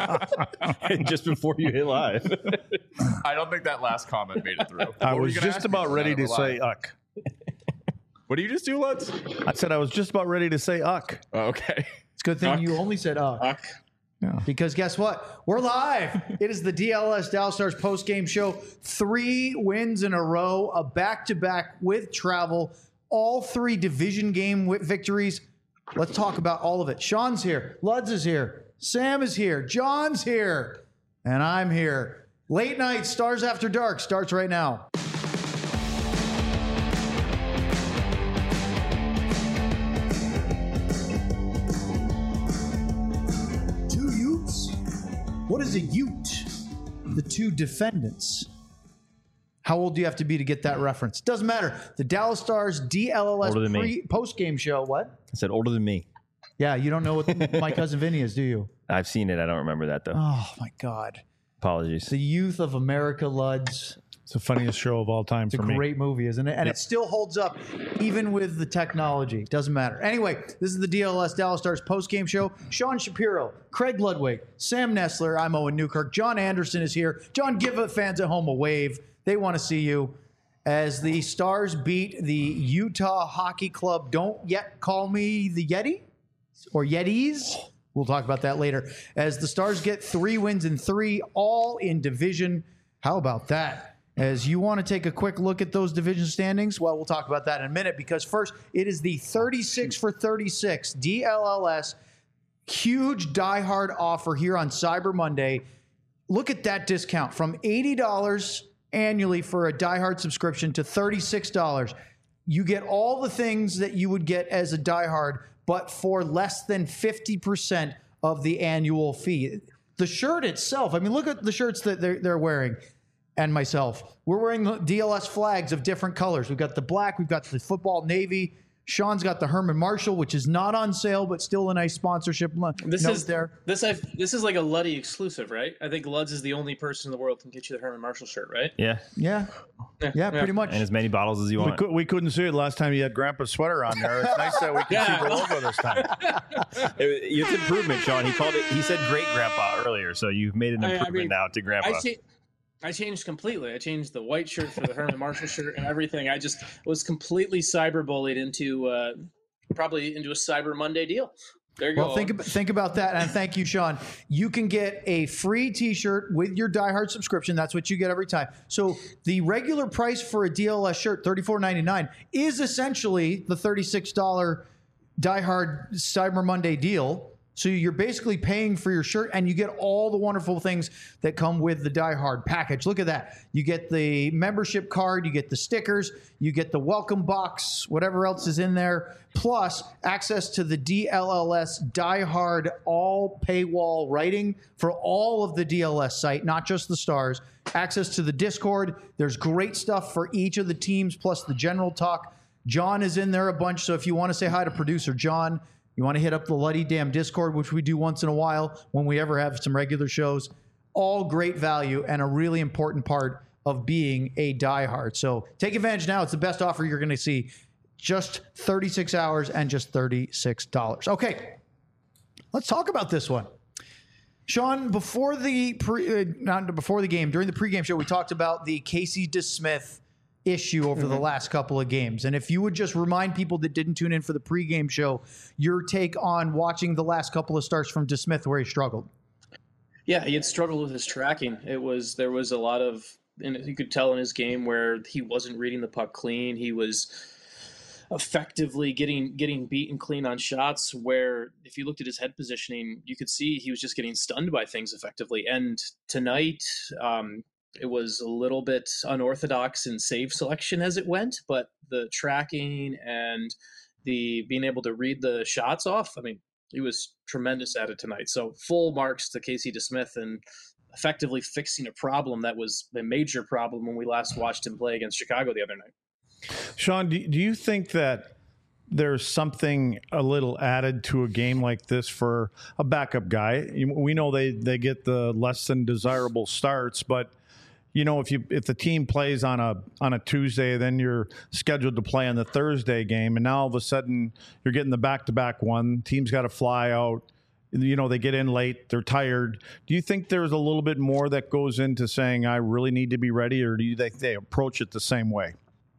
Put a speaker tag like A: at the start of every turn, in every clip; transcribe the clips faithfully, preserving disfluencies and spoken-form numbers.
A: just before you hit live.
B: I don't think that last comment made it through.
C: I
B: What were
C: was
B: you gonna
C: just
B: ask me
C: about
B: about
C: ready
B: that
C: to
B: live?
C: say uck.
B: What do you just do, Lutz?
C: I said I was just about ready to say uck.
B: Oh, okay.
D: It's a good thing
E: Uck.
D: you only said uh.
E: Uck.
C: Yeah.
D: Because guess what? We're live. It is the D L S Dallas Stars post-game show. Three wins in a row, a back-to-back with travel, all three division game wi- victories. Let's talk about all of it. Sean's here. Luds is here. Sam is here. John's here. And I'm here. Late night Stars After Dark starts right now. Two Utes? What is a Ute? The two defendants. How old do you have to be to get that reference? Doesn't matter. The Dallas Stars D L L S
A: Older than me.
D: pre- post-game show. What?
A: I said older than me.
D: Yeah, you don't know what My Cousin Vinny is, do you?
A: I've seen it. I don't remember that, though.
D: Oh, my God.
A: Apologies.
D: The Youth of America, Luds.
C: It's the funniest show of all time
D: It's a
C: for me.
D: great movie, isn't it? And it still holds up even with the technology. Doesn't matter. Anyway, this is the D L S Dallas Stars post-game show. Sean Shapiro, Craig Ludwig, Sam Nestler, I'm Owen Newkirk. John Anderson is here. John, give the fans at home a wave. They want to see you. As the Stars beat the Utah Hockey Club, don't yet call me the Yeti or Yetis. We'll talk about that later. As the Stars get three wins in three, all in division. How about that? As you want to take a quick look at those division standings, well, we'll talk about that in a minute because first, it is the thirty-six for thirty-six D L L S huge diehard offer here on Cyber Monday. Look at that discount from eighty dollars annually for a diehard subscription to thirty-six dollars. You get all the things that you would get as a diehard, but for less than fifty percent of the annual fee. The shirt itself, I mean, look at the shirts that they're, they're wearing. And myself, we're wearing the D L S flags of different colors. We've got the black, we've got the football navy. Sean's got the Herman Marshall, which is not on sale, but still a nice sponsorship
E: This
D: note
E: is
D: there.
E: This I've, this is like a Luddy exclusive, right? I think Luds is the only person in the world who can get you the Herman Marshall shirt, right?
A: Yeah.
D: Yeah,
E: Yeah,
D: yeah, pretty much.
A: And as many bottles as you
C: We,
A: want.
C: could, we couldn't see it last time you had Grandpa's sweater on there. It's nice that we can
E: Yeah.
C: see the logo this time.
A: It- it's improvement, Sean. He called it, he said great grandpa earlier. So you've made an
E: I- I
A: improvement
E: mean,
A: now to grandpa.
E: I, cha- I changed completely. I changed the white shirt for the Herman Marshall shirt and everything. I just was completely cyber bullied into uh, probably into a Cyber Monday deal. There you
D: Well,
E: go.
D: think about, think about that, and thank you, Sean. You can get a free T-shirt with your diehard subscription. That's what you get every time. So the regular price for a D L S shirt, thirty-four ninety-nine, is essentially the thirty-six dollars diehard Cyber Monday deal. So you're basically paying for your shirt, and you get all the wonderful things that come with the diehard package. Look at that. You get the membership card, you get the stickers, you get the welcome box, whatever else is in there, plus access to the D L L S diehard all paywall writing for all of the D L S site, not just the Stars. Access to the Discord. There's great stuff for each of the teams, plus the general talk. John is in there a bunch, so if you want to say hi to producer John, you want to hit up the Luddy Damn Discord, which we do once in a while when we ever have some regular shows. All great value and a really important part of being a diehard. So take advantage now. It's the best offer you're going to see. Just thirty-six hours and just thirty-six dollars. Okay, let's talk about this one. Sean, before the pre, uh, not before the game, during the pregame show, we talked about the Casey DeSmith issue over mm-hmm. the last couple of games. And if you would just remind people that didn't tune in for the pregame show, your take on watching the last couple of starts from DeSmith where he struggled.
E: Yeah, he had struggled with his tracking. It was there was a lot of, and you could tell in his game where he wasn't reading the puck clean. He was effectively getting getting beaten clean on shots where if you looked at his head positioning, you could see he was just getting stunned by things effectively. And tonight, um, it was a little bit unorthodox in save selection as it went, but the tracking and the being able to read the shots off, I mean, he was tremendous at it tonight. So full marks to Casey DeSmith and effectively fixing a problem that was a major problem when we last watched him play against Chicago the other night.
C: Sean, do, do you think that there's something a little added to a game like this for a backup guy? We know they, they get the less than desirable starts, but you know, if you if the team plays on a on a Tuesday, then you're scheduled to play on the Thursday game, and now all of a sudden you're getting the back to back one. Team's got to fly out. you know, they get in late, they're tired. Do you think there's a little bit more that goes into saying, I really need to be ready, or do you think they approach it the same way?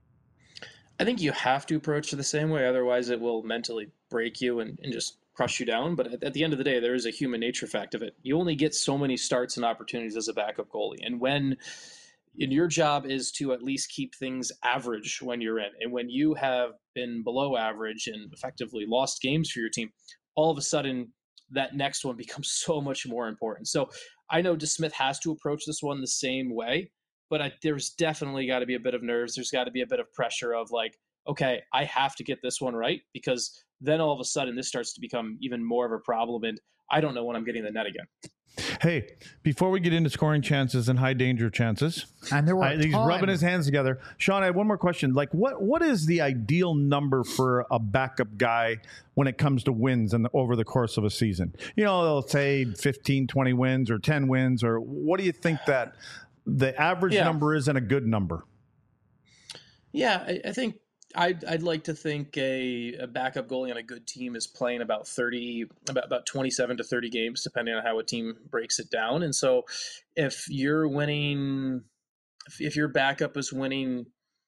E: I think you have to approach it the same way. Otherwise, it will mentally break you and, and just crush you down. But at, at the end of the day, there is a human nature fact of it. You only get so many starts and opportunities as a backup goalie. And when and your job is to at least keep things average when you're in. And when you have been below average and effectively lost games for your team, all of a sudden that next one becomes so much more important. So I know DeSmith has to approach this one the same way, but I, there's definitely got to be a bit of nerves. There's got to be a bit of pressure of like, okay, I have to get this one right, because then all of a sudden this starts to become even more of a problem. And I don't know when I'm getting the net again.
C: Hey, before we get into scoring chances and high danger chances,
D: and there were
C: I, he's
D: ton.
C: rubbing his hands together. Sean, I have one more question. Like, what what is the ideal number for a backup guy when it comes to wins and over the course of a season? You know, they'll say fifteen, twenty wins or ten wins, or what do you think that the average
E: yeah.
C: number is and a good number?
E: Yeah, I, I think I'd, I'd like to think a, a backup goalie on a good team is playing about thirty, about, about twenty-seven to thirty games, depending on how a team breaks it down. And so if you're winning, if, if your backup is winning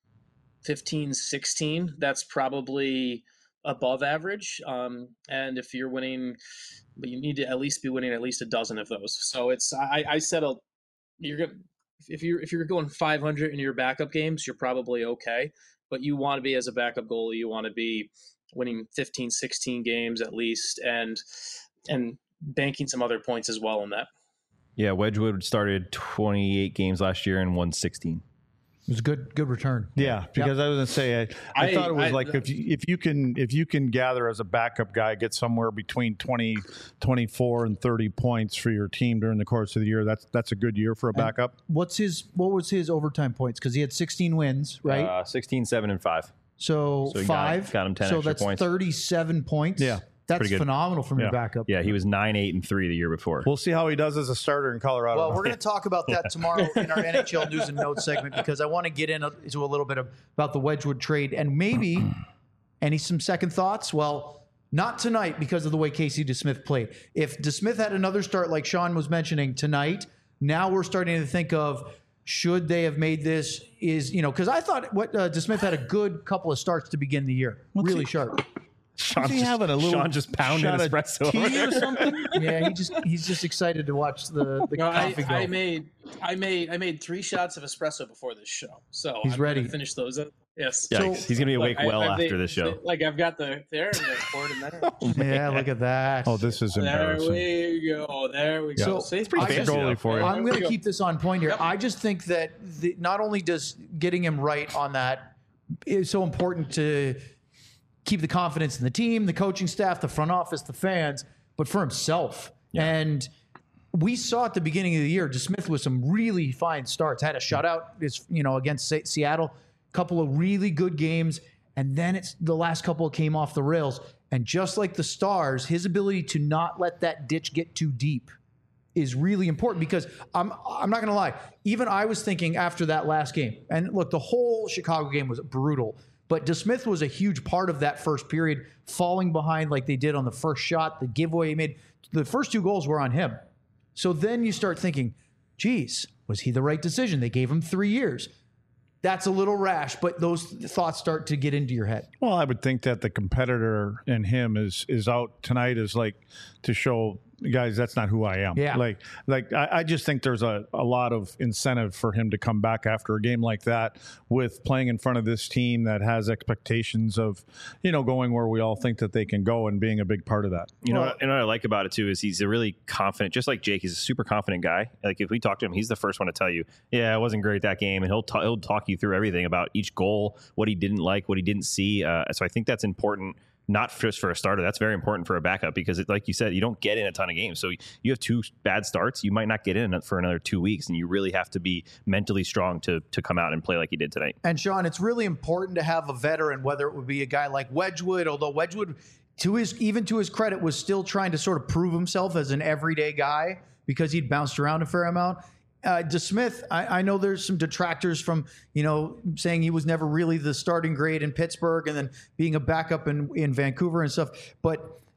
E: fifteen, sixteen, that's probably above average. Um, and if you're winning, but you need to at least be winning at least a dozen of those. So it's, I, I said, a, you're going to, if you're, if you're going five hundred in your backup games, you're probably okay. But you want to be, as a backup goalie, you want to be winning fifteen, sixteen games at least, and and banking some other points as well in that.
A: Yeah, Wedgwood started twenty-eight games last year and won sixteen.
D: It was a good good return.
C: Yeah, because yep. I was going to say, I, I, I thought it was I, like if you, if you can if you can gather as a backup guy, get somewhere between twenty, twenty-four and thirty points for your team during the course of the year, that's that's a good year for a backup.
D: And what's his what was his overtime points? Because he had sixteen wins, right?
A: Uh, sixteen, seven, and five.
D: So,
A: so
D: five.
A: Got, got him ten
D: so
A: extra
D: that's
A: points.
D: thirty-seven points.
C: Yeah.
D: That's phenomenal from
C: yeah.
D: your backup.
A: Yeah, he was nine, eight, and three the year before.
C: We'll see how he does as a starter in Colorado.
D: Well, we're going to talk about that tomorrow in our N H L news and notes segment, because I want to get into a little bit of, about the Wedgwood trade and maybe any some second thoughts. Well, not tonight because of the way Casey DeSmith played. If DeSmith had another start like Sean was mentioning tonight, now we're starting to think of, should they have made this? Is you know because I thought what uh, DeSmith had a good couple of starts to begin the year, What's really he? sharp.
A: Sean just, having a little Sean just pounding espresso
C: tea or something.
D: Yeah, he just he's just excited to watch the, the
E: no,
D: coffee
E: I,
D: go.
E: I made I made I made three shots of espresso before this show, so
D: he's
E: I'm
D: ready
E: to finish those up. Yes,
A: so, he's gonna be awake
E: like,
A: well
E: I,
A: after
E: they,
A: this show.
E: Like I've got the there and the poured in there.
A: Oh,
D: yeah, look at that.
C: Oh, this is embarrassing.
E: There we go. There we go.
D: So,
E: See,
A: it's pretty fancy
C: goalie for you.
D: I'm going to
E: go.
D: keep this on point here.
E: Yep.
D: I just think that the, not only does getting him right on that is so important to keep the confidence in the team, the coaching staff, the front office, the fans, but for himself. Yeah. And we saw at the beginning of the year, DeSmith with some really fine starts, had a shutout is you know against Seattle, couple of really good games, and then it's the last couple came off the rails. And just like the Stars, his ability to not let that ditch get too deep is really important, because I'm I'm not going to lie, even I was thinking after that last game, and look, the whole Chicago game was brutal, but DeSmith was a huge part of that first period, falling behind like they did on the first shot, the giveaway he made. The first two goals were on him. So then you start thinking, geez, was he the right decision? They gave him three years. That's a little rash, but those thoughts start to get into your head.
C: Well, I would think that the competitor in him is is out tonight is like to show, guys, that's not who I am.
D: Yeah.
C: Like, like I, I just think there's a, a lot of incentive for him to come back after a game like that with playing in front of this team that has expectations of, you know, going where we all think that they can go and being a big part of that.
A: You know, well, and what I like about it too is he's a really confident, just like Jake, he's a super confident guy. Like if we talk to him, he's the first one to tell you, yeah, it wasn't great that game. And he'll, ta- he'll talk you through everything about each goal, what he didn't like, what he didn't see. Uh, so I think that's important. Not just for a starter. That's very important for a backup because, it, like you said, you don't get in a ton of games. So you have two bad starts. You might not get in for another two weeks, and you really have to be mentally strong to to come out and play like you did tonight.
D: And, Sean, it's really important to have a veteran, whether it would be a guy like Wedgwood, although Wedgwood, to his even to his credit, was still trying to sort of prove himself as an everyday guy because he'd bounced around a fair amount. Uh, DeSmith, I, I know there's some detractors from, you know, saying he was never really the starting grade in Pittsburgh and then being a backup in, in Vancouver and stuff. But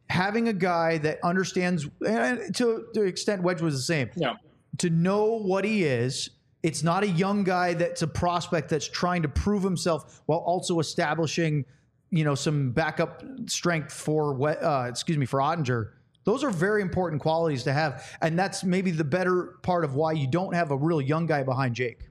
D: having a guy that understands, and to the extent Wedge was the same,
E: Yeah.
D: to know what he is. It's not a young guy that's a prospect that's trying to prove himself while also establishing, you know, some backup strength for what, uh, excuse me, for Ottinger. Those are very important qualities to have. And that's maybe the better part of why you don't have a real young guy behind Jake.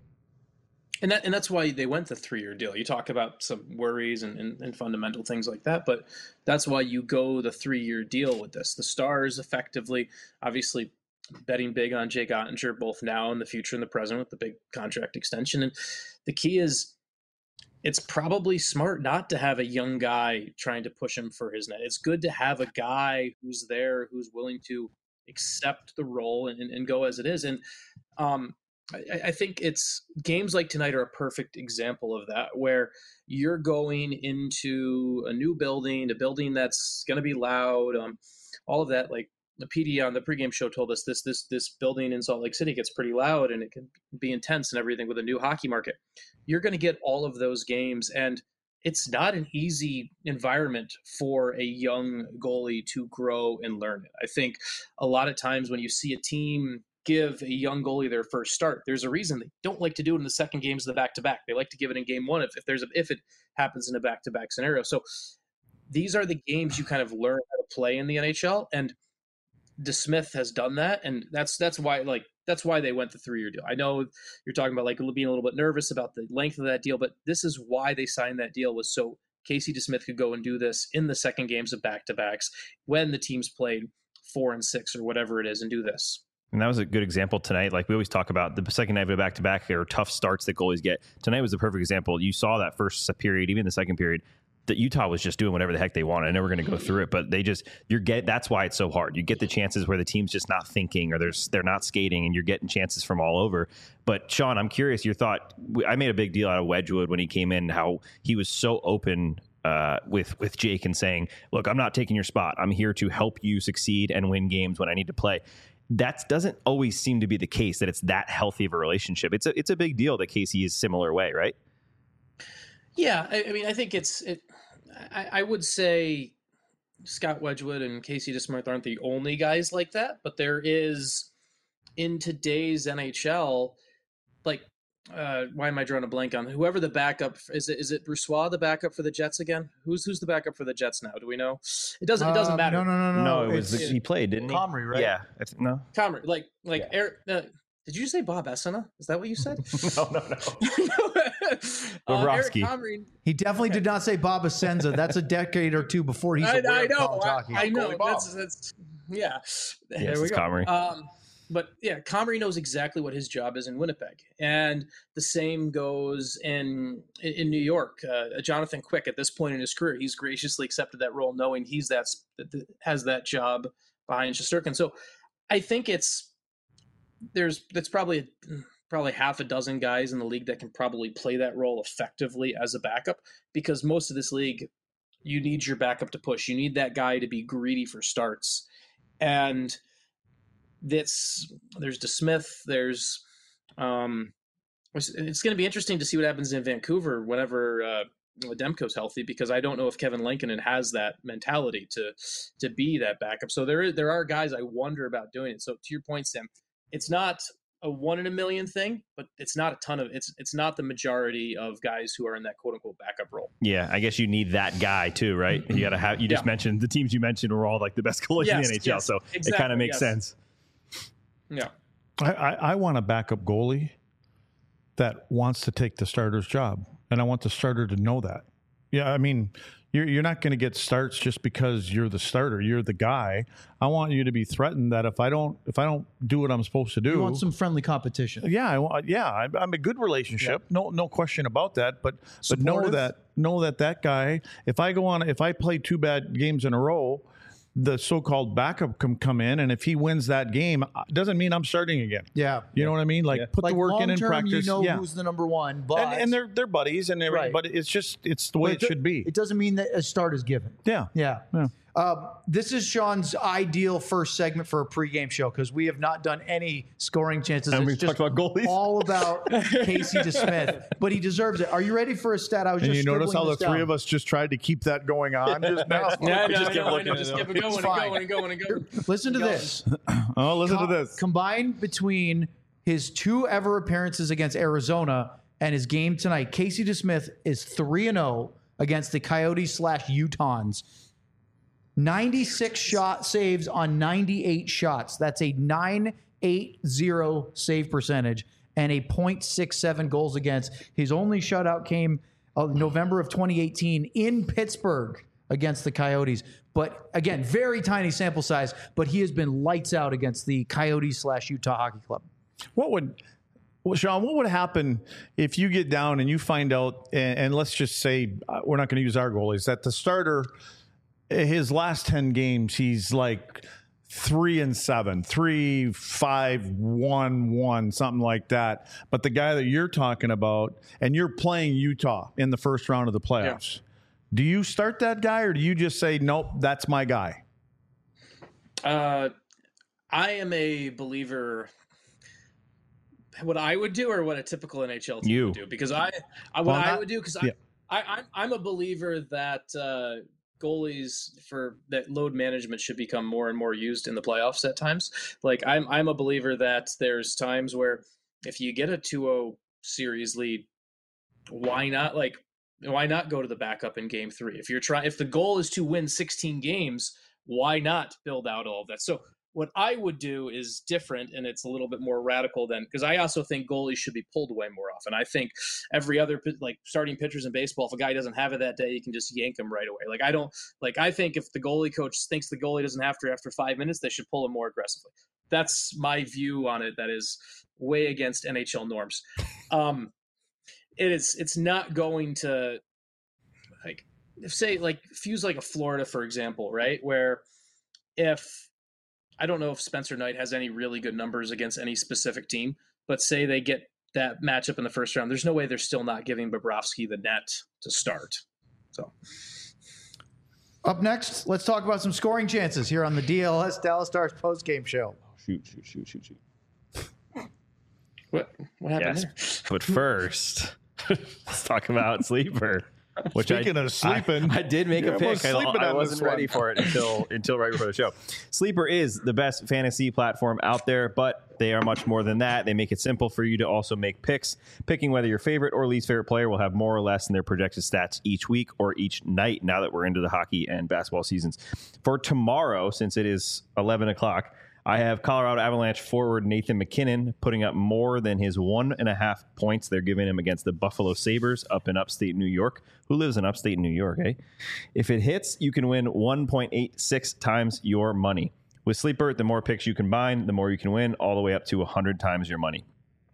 E: And that and that's why they went the three-year deal. You talk about some worries and, and, and fundamental things like that, but that's why you go the three-year deal with this. The Stars effectively, obviously, betting big on Jake Ottinger, both now and the future and the present with the big contract extension. And the key is it's probably smart not to have a young guy trying to push him for his net. It's good to have a guy who's there, who's willing to accept the role and, and go as it is. And um, I, I think it's games like tonight are a perfect example of that, where you're going into a new building, a building that's going to be loud, um, all of that. Like the P D on the pregame show told us, this this this building in Salt Lake City gets pretty loud and it can be intense and everything with a new hockey market. You're going to get all of those games, and it's not an easy environment for a young goalie to grow and learn it. I think a lot of times when you see a team give a young goalie their first start, there's a reason they don't like to do it in the second games of the back-to-back. They like to give it in game one if, if there's a, if it happens in a back-to-back scenario. So these are the games you kind of learn how to play in the N H L, and DeSmith has done that, and that's that's why like that's why they went the three-year deal. I know you're talking about like being a little bit nervous about the length of that deal, but this is why they signed that deal, was so Casey DeSmith could go and do this in the second games of back-to-backs when the teams played four and six or whatever it is, and do this.
A: And that was a good example tonight. Like we always talk about the second night of a back-to-back or tough starts that goalies get. Tonight was the perfect example. You saw that first period, even the second period, that Utah was just doing whatever the heck they wanted. I know we're going to go through it, but they just, you're get, that's why it's so hard. You get the chances where the team's just not thinking, or there's, they're not skating, and you're getting chances from all over. But Sean, I'm curious your thought. I made a big deal out of Wedgwood when he came in, how he was so open uh, with, with Jake and saying, look, I'm not taking your spot. I'm here to help you succeed and win games when I need to play. That doesn't always seem to be the case, that it's that healthy of a relationship. It's a, it's a big deal that Casey is similar way, right?
E: Yeah. I, I mean, I think it's, it, I, I would say Scott Wedgwood and Casey DeSmith aren't the only guys like that, but there is in today's N H L, like, uh, why am I drawing a blank on whoever the backup is? It is it Brossoit, the backup for the Jets again? Who's who's the backup for the Jets now? Do we know? It doesn't. It doesn't
D: Uh,
E: matter.
D: No, no, no, no.
A: No, it was
D: It's-
A: he played, didn't he?
D: Comrie, right?
A: Yeah. I th- no.
E: Comrie, like like
A: Yeah.
E: Eric. Uh, did you say Bob Essena? Is that what you said?
A: no, no, no.
E: uh, Eric
A: Bobrovsky.
E: Comrie.
D: He definitely did not say Bob Asenza. That's a decade or two before he's
E: I,
D: aware
E: I
D: of
E: know.
D: college
E: I,
D: hockey.
E: I know.
B: Goalie Bob.
E: That's, that's yeah. There
A: Yes,
E: we
A: it's
E: go.
A: Comrie.
E: Um, but yeah, Comrie knows exactly what his job is in Winnipeg, and the same goes in in New York. Uh, Jonathan Quick, at this point in his career, he's graciously accepted that role, knowing he's that has that job behind Shesterkin. So I think it's there's that's probably a, probably half a dozen guys in the league that can probably play that role effectively as a backup, because most of this league, you need your backup to push. You need that guy to be greedy for starts. And that's, there's DeSmith, there's, um, it's, it's going to be interesting to see what happens in Vancouver whenever uh, Demko's healthy, because I don't know if Kevin Lankinen has that mentality to to be that backup. So there, there are guys I wonder about doing it. So to your point, Sam, it's not a one in a million thing, but it's not a ton of it's it's not the majority of guys who are in that quote unquote backup role.
A: Yeah, I guess you need that guy too, right? You got to have. You just
E: Yeah.
A: mentioned the teams you mentioned were all like the best goalies in
E: Yes,
A: the N H L,
E: yes,
A: so it
E: exactly,
A: kind of makes
E: yes.
A: sense.
E: Yeah.
C: I, I, I want a backup goalie that wants to take the starter's job, and I want the starter to know that. Yeah, I mean, you're you're not going to get starts just because you're the starter. You're the guy. I want you to be threatened that if I don't if I don't do what I'm supposed to do,
D: You want some friendly competition.
C: yeah, I, want- yeah, I'm, I'm a good relationship. No, no question about that. But but know
D: Supportive.
C: that know that that guy. If I go on, if I play two bad games in a row, the so-called backup can come in, and if he wins that game, doesn't mean I'm starting again.
D: Yeah.
C: You know what I mean? Like put
D: Like
C: the work in and
D: long-term,
C: practice.
D: you know
C: yeah.
D: who's the number one, but
C: and, and they're they're buddies and everything,
D: Right.
C: but it's just it's the way
D: but
C: it
D: do-
C: should be.
D: It doesn't mean that a start is given.
C: yeah.
D: Yeah.
C: Yeah.
D: Uh, this is Sean's ideal first segment for a pregame show because we have not done any scoring chances.
A: And
D: it's
A: we
D: just
A: talked about goalies.
D: all about Casey DeSmith, but he deserves it. Are you ready for a stat? I was
C: And
D: just
C: you notice how the
D: scribbling this
C: three
D: down.
C: of us just tried to keep that going on just now?
E: Yeah,
A: We
E: no,
A: just kept
E: no, I
A: looking
E: know,
A: at
E: just
A: it.
E: keep it going and
D: fine.
E: going and going and going.
D: Listen to
E: Going.
D: this.
C: Oh, listen to
D: Co-
C: this.
D: Combined between his two ever appearances against Arizona and his game tonight, Casey DeSmith is three and zero against the Coyotes slash Utahns. ninety-six shot saves on ninety-eight shots. That's a nine eighty save percentage and a point six seven goals against. His only shutout came uh, November of twenty eighteen in Pittsburgh against the Coyotes. But again, very tiny sample size, but he has been lights out against the Coyotes slash Utah Hockey Club.
C: What would, well, Sean, what would happen if you get down and you find out, and, and let's just say, uh, we're not going to use our goalies, that the starter, his last ten games, he's like three and seven, three, five, one, one, something like that. But the guy that you're talking about, and you're playing Utah in the first round of the playoffs, yeah. Do you start that guy or do you just say, nope, that's my guy?
E: Uh, I am a believer. What I would do, or what a typical N H L team
A: You.
E: would do, because I, I what
C: Well,
E: I
C: not-
E: would do, because
C: yeah.
E: I, I, I'm, I'm a believer that uh, goalies for that load management should become more and more used in the playoffs at times. Like I'm, I'm a believer that there's times where if you get a two oh series lead, why not like. Why not go to the backup in game three? If you're trying, if the goal is to win sixteen games, why not build out all of that? So what I would do is different, and it's a little bit more radical than, because I also think goalies should be pulled away more often. I think every other, like starting pitchers in baseball, if a guy doesn't have it that day, you can just yank him right away. Like I don't, like I think if the goalie coach thinks the goalie doesn't have to after five minutes, they should pull him more aggressively. That's my view on it. That is way against N H L norms. Um, It is. It's not going to, like, if say like fuse like a Florida, for example, right? Where if I don't know if Spencer Knight has any really good numbers against any specific team, but say they get that matchup in the first round, there's no way they're still not giving Bobrovsky the net to start. So,
D: Up next, let's talk about some scoring chances here on the D L S Dallas Stars post-game show.
A: Shoot, shoot, shoot, shoot, shoot.
E: what what happened
A: Yes.
E: there?
A: But first, let's talk about Sleeper. Which
C: Speaking
A: I,
C: of sleeping,
A: I, I did make
C: you're
A: a pick.
C: almost
A: I,
C: sleeping
A: I
C: on
A: wasn't
C: this
A: ready
C: one.
A: for it until until right before the show. Sleeper is the best fantasy platform out there, but they are much more than that. They make it simple for you to also make picks. Picking whether your favorite or least favorite player will have more or less in their projected stats each week or each night now that we're into the hockey and basketball seasons. For tomorrow, since it is eleven o'clock, I have Colorado Avalanche forward Nathan McKinnon putting up more than his one and a half points they're giving him against the Buffalo Sabres up in upstate New York. Who lives in upstate New York, eh? If it hits, you can win one point eight six times your money. With Sleeper, the more picks you combine, the more you can win, all the way up to one hundred times your money.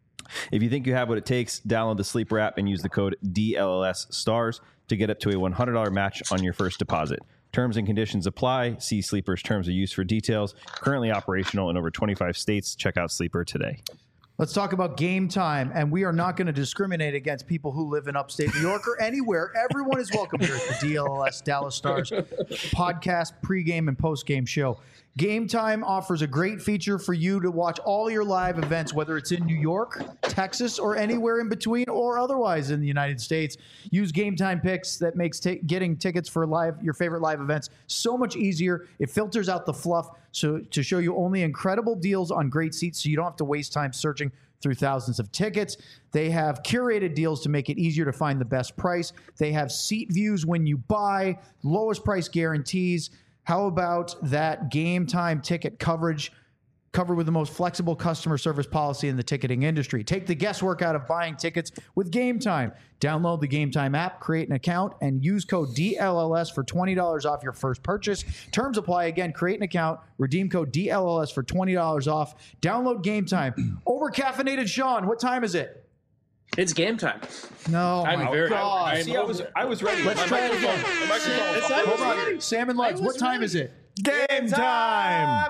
A: If you think you have what it takes, download the Sleeper app and use the code D L L S STARS to get up to a one hundred dollars match on your first deposit. Terms and conditions apply. See Sleeper's terms of use for details. Currently operational in over twenty-five states. Check out Sleeper today.
D: Let's talk about game time, and we are not going to discriminate against people who live in upstate New York or anywhere. Everyone is welcome here at the D L L S Dallas Stars podcast, pregame and postgame show. Game Time offers a great feature for you to watch all your live events, whether it's in New York, Texas, or anywhere in between, or otherwise in the United States. Use Game Time picks that makes t- getting tickets for live your favorite live events so much easier. It filters out the fluff so to show you only incredible deals on great seats, so you don't have to waste time searching through thousands of tickets. They have curated deals to make it easier to find the best price. They have seat views when you buy, lowest price guarantees. How about that Game Time ticket coverage covered with the most flexible customer service policy in the ticketing industry? Take the guesswork out of buying tickets with Game Time. Download the Game Time app, create an account, and use code D L L S for twenty dollars off your first purchase. Terms apply. Again, create an account, redeem code D L L S for twenty dollars off. Download Game Time. Over caffeinated Sean, what time is it?
E: It's game time.
D: No,
E: I'm
D: my
E: very.
D: God.
E: I'm
A: See, I was, I was ready.
D: Let's try it again.
E: It's not
D: Hold
E: ready.
D: on. Salmon Lights,
E: I
D: what
E: was
D: time
E: ready.
D: is it?
C: Game time!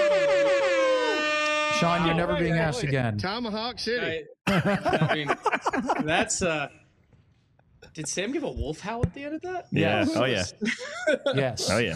D: Sean, you're never
E: right,
D: being
E: right,
D: asked
E: right.
D: again.
F: Tomahawk City.
E: I, I mean, that's. uh Did Sam give a wolf howl at the end of that?
A: Yeah.
D: Yes.
A: Oh, yeah.
D: Yes.
A: Oh, yeah.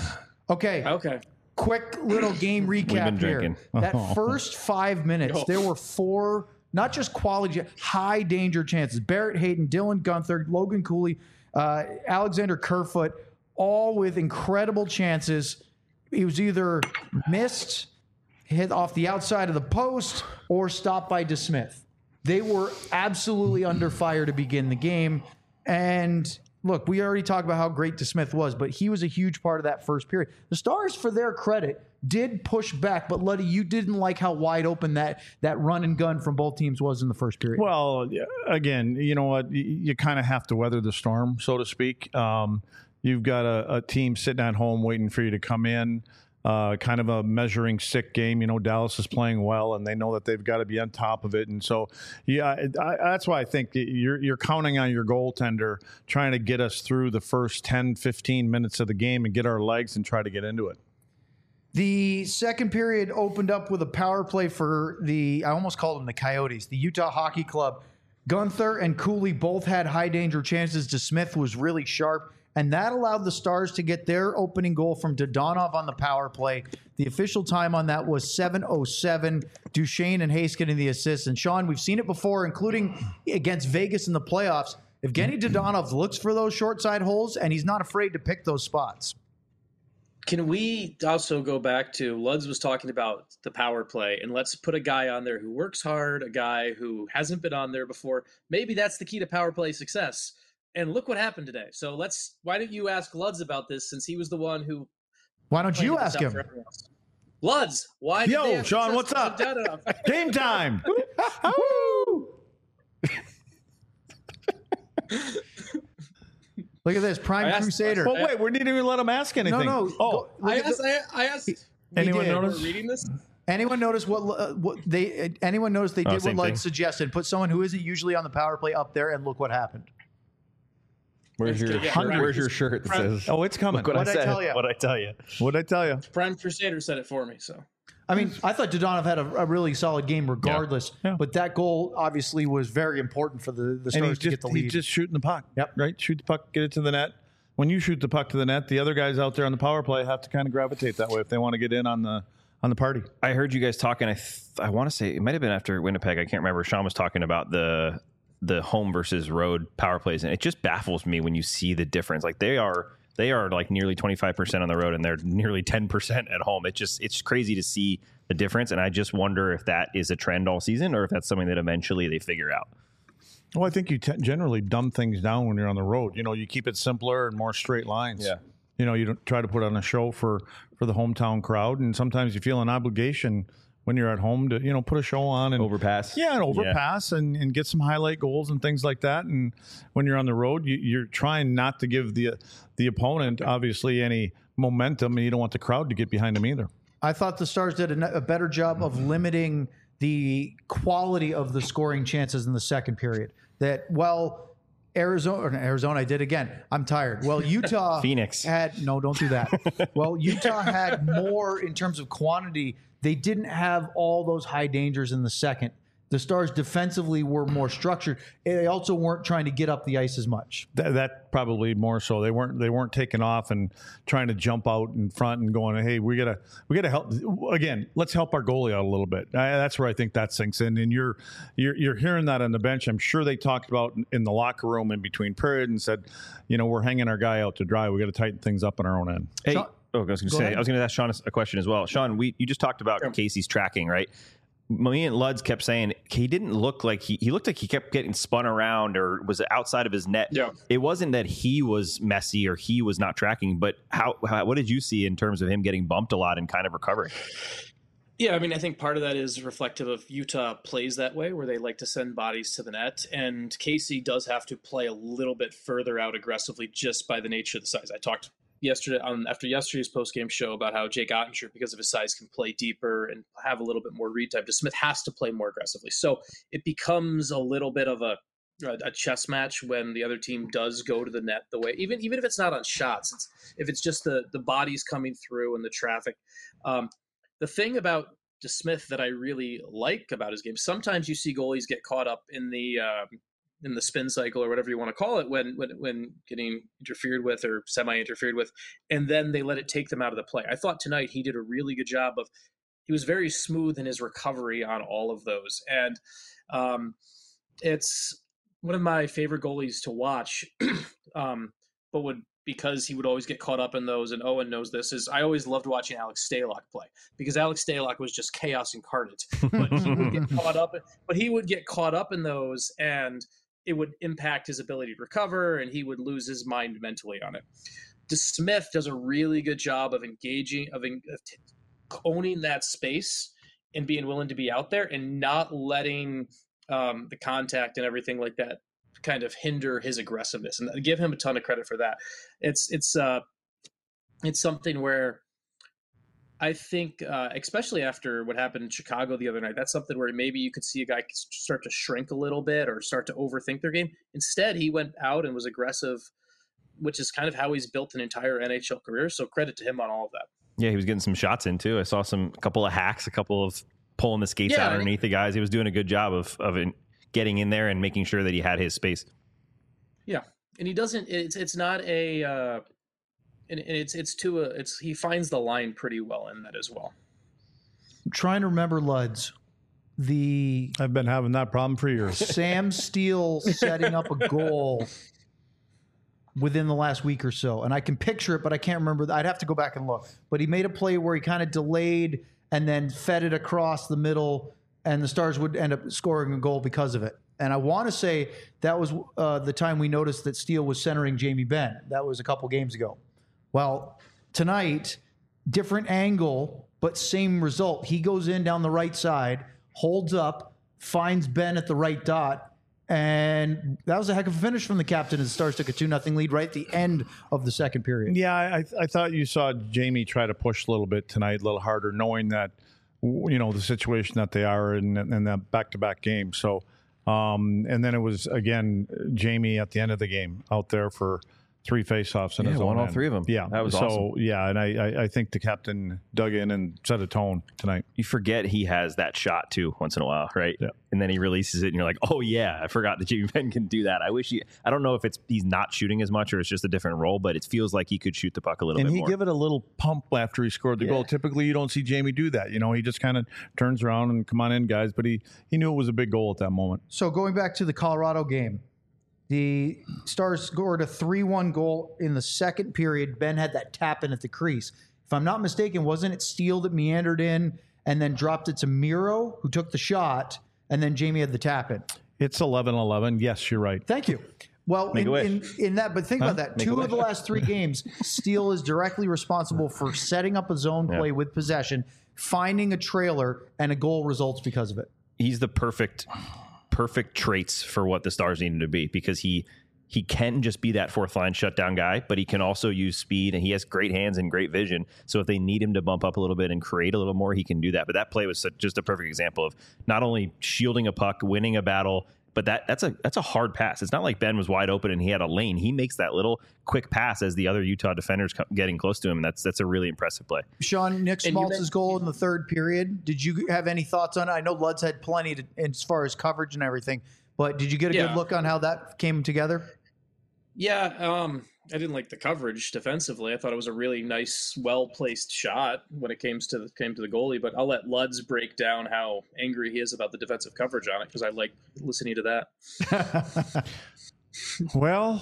D: Okay.
E: Okay.
D: Quick little game recap
A: been
D: here.
A: drinking.
D: That first five minutes,
E: Oh.
D: there were four, not just quality, high danger chances. Barrett Hayton, Dylan Gunther, Logan Cooley, uh, Alexander Kerfoot, all with incredible chances. He was either missed, hit off the outside of the post, or stopped by DeSmith. They were absolutely under fire to begin the game. And look, we already talked about how great DeSmith was, but he was a huge part of that first period. The Stars, for their credit, did push back, but Luddy, you didn't like how wide open that that run and gun from both teams was in the first period.
C: Well, yeah, again, you know what? You, you kind of have to weather the storm, so to speak. Um, you've got a, a team sitting at home waiting for you to come in. Uh, kind of a measuring stick game. You know, Dallas is playing well, and they know that they've got to be on top of it. And so, yeah, I, that's why I think you're you're counting on your goaltender trying to get us through the first ten, fifteen minutes of the game and get our legs and try to get into it.
D: The second period opened up with a power play for the, I almost called them the Coyotes, the Utah Hockey Club. Gunther and Cooley both had high danger chances. DeSmith was really sharp. And that allowed the Stars to get their opening goal from Dodonov on the power play. The official time on that was seven oh seven. Duchesne and Hayes getting the assists. And Sean, we've seen it before, including against Vegas in the playoffs. Evgeny Dodonov looks for those short side holes, and he's not afraid to pick those spots.
E: Can we also go back to Luds was talking about the power play, and let's put a guy on there who works hard, a guy who hasn't been on there before. Maybe that's the key to power play success. And look what happened today. So let's. Why don't you ask Luds about this, since he was the one who?
D: Why don't you ask him?
E: Luds, why? Did
C: Yo,
E: they have
C: Sean,
E: success
C: what's
E: with
C: up?
E: Dodonov?
C: Game time!
D: Look at this, Prime
E: I asked-
D: Crusader.
C: Well, wait, we didn't even let him ask anything.
D: No, no.
C: Oh,
D: go- look
E: I
D: at
E: asked.
D: the-
E: I, I asked.
C: anyone
D: did.
C: notice?
E: We're reading this.
D: Anyone notice what uh, what they? Anyone notice they
A: Oh,
D: did what
A: same
D: Lud
A: thing.
D: suggested? Put someone who isn't usually on the power play up there, and look what happened.
F: Where's your
E: Yeah,
F: Where's
E: right.
F: your shirt that
E: Prime-
F: says?
C: Oh, it's coming.
F: Look what
D: What'd
F: I
D: I
F: said.
D: tell you?
A: What I tell you?
C: What'd I tell you?
E: Prime Crusader said it for me. So
D: I mean, I thought Dodonov had a, a really solid game regardless,
C: Yeah.
D: but that goal obviously was very important for the, the
C: And
D: Stars
C: he's
D: to
C: just,
D: get the
C: he's
D: lead.
C: just shooting the puck.
D: Yep.
C: Right? Shoot the puck, get it to the net. When you shoot the puck to the net, the other guys out there on the power play have to kind of gravitate that way if they want to get in on the on the party.
A: I heard you guys talking. I th- I want to say it might have been after Winnipeg. I can't remember. Sean was talking about the the home versus road power plays, and it just baffles me when you see the difference. Like they are they are like nearly twenty-five percent on the road, and they're nearly ten percent at home. It just it's crazy to see the difference, and I just wonder if that is a trend all season or if that's something that eventually they figure out.
C: Well, I think you t- generally dumb things down when you're on the road. You know, you keep it simpler and more straight lines.
A: Yeah.
C: You know, you don't try to put on a show for, for the hometown crowd, and sometimes you feel an obligation when you're at home to, you know, put a show on and
F: Overpass.
C: Yeah, and overpass and, and get some highlight goals and things like that. And when you're on the road, you, you're trying not to give the the opponent obviously any momentum, and you don't want the crowd to get behind them either.
D: I thought the Stars did a, a better job of limiting the quality of the scoring chances in the second period. That, well, Arizona, or Arizona, I did again. I'm tired. Well, Utah
A: Phoenix.
D: had, no, don't do that. Well, Utah had more in terms of quantity. They didn't have all those high dangers in the second. The Stars defensively were more structured. They also weren't trying to get up the ice as much.
C: That, that probably more so. They weren't they weren't taking off and trying to jump out in front and going, hey, we gotta we gotta help again. Let's help our goalie out a little bit. I, that's where I think that sinks in. And you're you're you're hearing that on the bench. I'm sure they talked about in the locker room in between period and said, you know, we're hanging our guy out to dry. We got to tighten things up on our own end.
A: Hey,
D: Sean-
A: oh, I was going to
D: Go
A: say,
D: ahead.
A: I was going to ask Sean a question as well. Sean, we you just talked about Casey's tracking, right? Me and Luds kept saying he didn't look like he he looked like he kept getting spun around or was outside of his net.
E: Yeah.
A: It wasn't that he was messy or he was not tracking, but how, how what did you see in terms of him getting bumped a lot and kind of recovering?
E: Yeah, I mean, I think part of that is reflective of Utah plays that way, where they like to send bodies to the net, and Casey does have to play a little bit further out aggressively just by the nature of the size. I talked yesterday on after yesterday's post-game show about how Jake Ottinger, because of his size, can play deeper and have a little bit more read time. DeSmith has to play more aggressively, so it becomes a little bit of a a chess match when the other team does go to the net the way, even even if it's not on shots, it's if it's just the the bodies coming through and the traffic. Um, The thing about DeSmith that I really like about his game, sometimes you see goalies get caught up in the um, in the spin cycle or whatever you want to call it when when when getting interfered with or semi interfered with, and then they let it take them out of the play. I thought tonight he did a really good job of. He was very smooth in his recovery on all of those, and um, it's one of my favorite goalies to watch. um, but would because he would always get caught up in those, and Owen knows this, is I always loved watching Alex Stalock play because Alex Stalock was just chaos incarnate. But he would get caught up, but he would get caught up in those, and it would impact his ability to recover, and he would lose his mind mentally on it. DeSmith does a really good job of engaging, of, of owning that space and being willing to be out there and not letting um, the contact and everything like that kind of hinder his aggressiveness, and I give him a ton of credit for that. It's it's uh, it's something where I think, uh, especially after what happened in Chicago the other night, that's something where maybe you could see a guy start to shrink a little bit or start to overthink their game. Instead, he went out and was aggressive, which is kind of how he's built an entire N H L career. So credit to him on all of that.
A: Yeah, he was getting some shots in too. I saw some a couple of hacks, a couple of pulling the skates
E: Yeah,
A: out underneath the guys. He was doing a good job of of in, getting in there and making sure that he had his space.
E: Yeah, and he doesn't. It's it's not a. Uh, and, and it's it's to a. It's he finds the line pretty well in that as well.
D: I'm trying to remember, Luds, the
C: I've been having that problem for years.
D: Sam Steele setting up a goal within the last week or so, and I can picture it, but I can't remember. I'd have to go back and look. But he made a play where he kind of delayed and then fed it across the middle, and the Stars would end up scoring a goal because of it. And I want to say that was uh, the time we noticed that Steele was centering Jamie Benn. That was a couple games ago. Well, tonight, different angle, but same result. He goes in down the right side, holds up, finds Ben at the right dot, and that was a heck of a finish from the captain as the Stars took a two nothing lead right at the end of the second period.
C: Yeah, I, I thought you saw Jamie try to push a little bit tonight, a little harder, knowing that, you know, the situation that they are in, in that back-to-back game. So, um, and then it was, again, Jamie at the end of the game out there for three faceoffs in
A: Yeah,
C: his
A: won
C: own
A: all
C: end.
A: three of them.
C: Yeah,
A: That was
C: so,
A: awesome.
C: yeah, and I, I, I think the captain dug in and set a tone tonight.
A: You forget he has that shot too once in a while, right?
C: Yeah.
A: And then he releases it, and you're like, "Oh yeah, I forgot that Jamie Benn can do that." I wish he. I don't know if it's he's not shooting as much or it's just a different role, but it feels like he could shoot the puck a little
C: And
A: bit
C: he
A: more.
C: give it a little pump after he scored the
A: Yeah.
C: goal. Typically, you don't see Jamie do that. You know, he just kind of turns around and come on in, guys. But he he knew it was a big goal at that moment.
D: So going back to the Colorado game, the Stars scored a three one goal in the second period. Ben had that tap in at the crease. If I'm not mistaken, wasn't it Steele that meandered in and then dropped it to Miro, who took the shot, and then Jamie had the tap in?
C: It's eleven eleven. Yes, you're right.
D: Thank you. Well,
A: Make
D: in,
A: a wish.
D: in, in that, but think
C: Huh?
D: about that.
A: Make a
D: Two of the
A: wish.
D: last three games, Steele is directly responsible for setting up a zone
A: Yeah.
D: play with possession, finding a trailer, and a goal results because of it.
A: He's the perfect, perfect traits for what the Stars need him to be because he he can just be that fourth line shutdown guy, but he can also use speed and he has great hands and great vision. So if they need him to bump up a little bit and create a little more, he can do that. But that play was such, just a perfect example of not only shielding a puck, winning a battle, but that that's a that's a hard pass. It's not like Ben was wide open and he had a lane. He makes that little quick pass as the other Utah defenders come, getting close to him, and that's that's a really impressive play.
D: Sean, Nick
E: And you
D: Schmaltz's
E: mentioned-
D: goal in the third period. Did you have any thoughts on it? I know Lud's had plenty to, as far as coverage and everything, but did you get a
E: Yeah.
D: good look on how that came together?
E: Yeah, um, I didn't like the coverage defensively. I thought it was a really nice, well-placed shot when it came to the, came to the goalie. But I'll let Luds break down how angry he is about the defensive coverage on it because I like listening to that.
C: Well,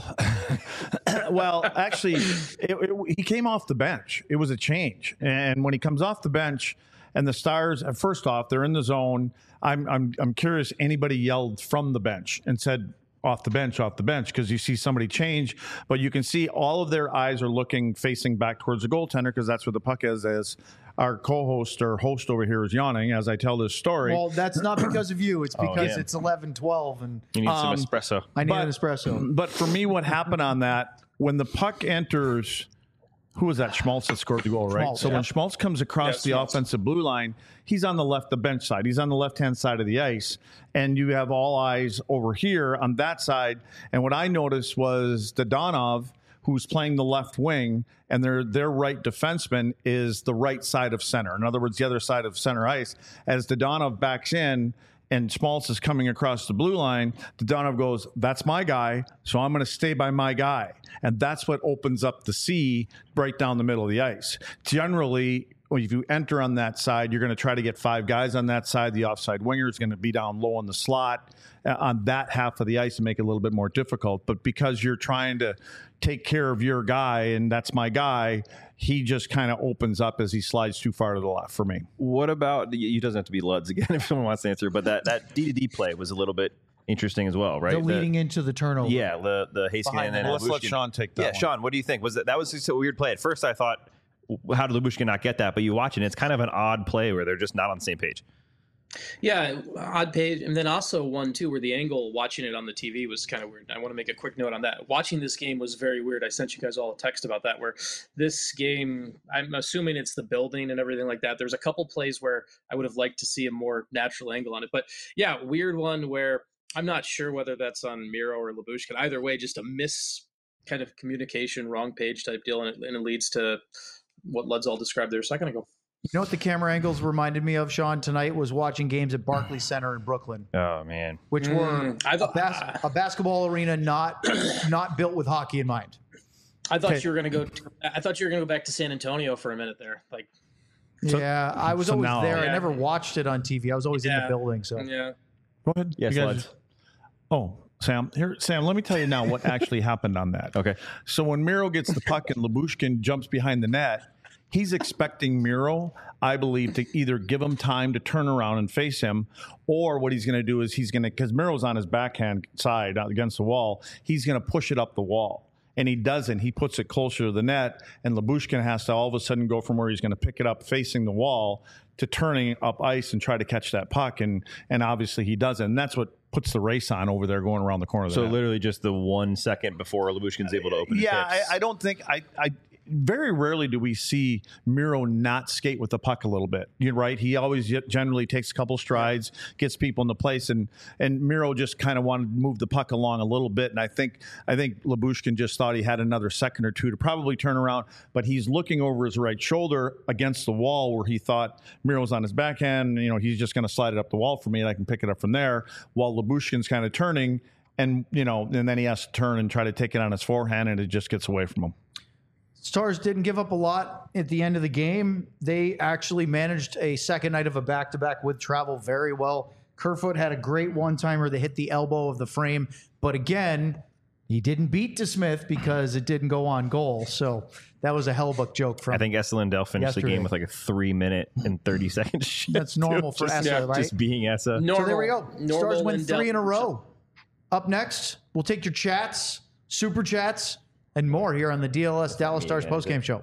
C: well, actually, it, it, he came off the bench. It was a change, and when he comes off the bench, and the Stars, first off, they're in the zone. I'm I'm I'm curious. Anybody yelled from the bench and said, off the bench, off the bench, because you see somebody change, but you can see all of their eyes are looking, facing back towards the goaltender because that's where the puck is. As our co-host or host over here is yawning as I tell this story.
D: Well, that's not because of you. It's because
A: yeah.
D: it's eleven twelve, and
A: You need
C: Um,
A: some espresso.
D: I need
C: but-
D: an espresso.
C: But for me, what happened on that, when the puck enters, who was that? Schmaltz that scored the goal, right?
D: Schmaltz,
C: so
D: yeah.
C: when Schmaltz comes across
E: Yeah,
C: the
E: Schmaltz.
C: offensive blue line, he's on the left, the bench side. He's on the left-hand side of the ice, and you have all eyes over here on that side. And what I noticed was Dodonov, who's playing the left wing, and their their right defenseman is the right side of center. In other words, the other side of center ice. As Dodonov backs in, and Schmaltz is coming across the blue line, Dadonov goes, that's my guy, so I'm going to stay by my guy. And that's what opens up the C right down the middle of the ice. Generally, if you enter on that side, you're going to try to get five guys on that side. The offside winger is going to be down low in the slot uh, on that half of the ice and make it a little bit more difficult. But because you're trying to take care of your guy, and that's my guy, he just kind of opens up as he slides too far to the left for me.
A: What about, you doesn't have to be Luds again if someone wants to answer, but that, that D to D play was a little bit interesting as well, right?
D: The leading
A: the,
D: into the turnover.
A: Yeah, the, the Heiskanen and
C: Let's let
A: Lyubushkin.
C: Sean take that
A: Yeah,
C: one.
A: Sean, what do you think? Was that, that was just a weird play. At first I thought, how did Lyubushkin not get that? But you watch it, and it's kind of an odd play where they're just not on the same page.
E: Yeah, odd page. And then also one, too, where the angle watching it on the T V was kind of weird. I want to make a quick note on that. Watching this game was very weird. I sent you guys all a text about that, where this game, I'm assuming it's the building and everything like that. There's a couple plays where I would have liked to see a more natural angle on it. But yeah, weird one where I'm not sure whether that's on Miro or Lyubushkin. Either way, just a miss kind of communication, wrong page type deal, and it, and it leads to what Luds all described there a second ago.
D: You know what the camera angles reminded me of, Sean, tonight was watching games at Barclays Center in Brooklyn,
A: Oh, man.
D: which were
E: I
D: a,
E: thought,
D: bas- a basketball arena not not built with hockey in mind.
E: I thought
C: Okay.
E: you were going to go. I thought you were going to go back to San Antonio for a minute there. Like,
C: So-
D: yeah, I was
C: so
D: always
C: now-
D: there. I
E: Yeah.
D: never watched it on T V. I was always in the
E: Yeah.
D: building. So
E: yeah.
C: Go ahead.
A: Yes,
C: You guys-
A: Luds.
C: Oh, Sam, here, Sam, let me tell you now what actually happened on that.
A: Okay.
C: So when Miro gets the puck and Lyubushkin jumps behind the net, he's expecting Miro, I believe, to either give him time to turn around and face him, or what he's going to do is he's going to, because Miro's on his backhand side against the wall, he's going to push it up the wall. And he doesn't. He puts it closer to the net, and Lyubushkin has to all of a sudden go from where he's going to pick it up facing the wall to turning up ice and try to catch that puck. And and obviously he doesn't. And that's what puts the race on over there going around the corner of the
A: So
C: net.
A: literally just the one second before Lyubushkin's able to open his
C: Yeah, I,
A: hips.
C: I don't think I, I. Very rarely do we see Miro not skate with the puck a little bit. You're right. He always generally takes a couple strides, gets people into place, and and Miro just kind of wanted to move the puck along a little bit. And I think I think Lyubushkin just thought he had another second or two to probably turn around, but he's looking over his right shoulder against the wall where he thought Miro's on his backhand. You know, he's just going to slide it up the wall for me, and I can pick it up from there. While Lyubushkin's kind of turning, and you know, and then he has to turn and try to take it on his forehand, and it just gets away from him.
D: Stars didn't give up a lot at the end of the game. They actually managed a second night of a back-to-back with travel very well. Kerfoot had a great one-timer that hit the elbow of the frame. But again, he didn't beat DeSmith because it didn't go on goal. So that was a Hellbuck joke from
A: I think Essa Lindell finished
D: yesterday.
A: the game with like a three minute and thirty second shift.
D: That's normal
A: too.
D: for
A: just,
D: Essa, right?
A: Just being Essa.
E: Normal,
D: So there we go.
E: normal
D: Stars win
E: Lindell.
D: three in a row. Up next, we'll take your chats, super chats, and more here on the D L S Dallas Stars postgame show.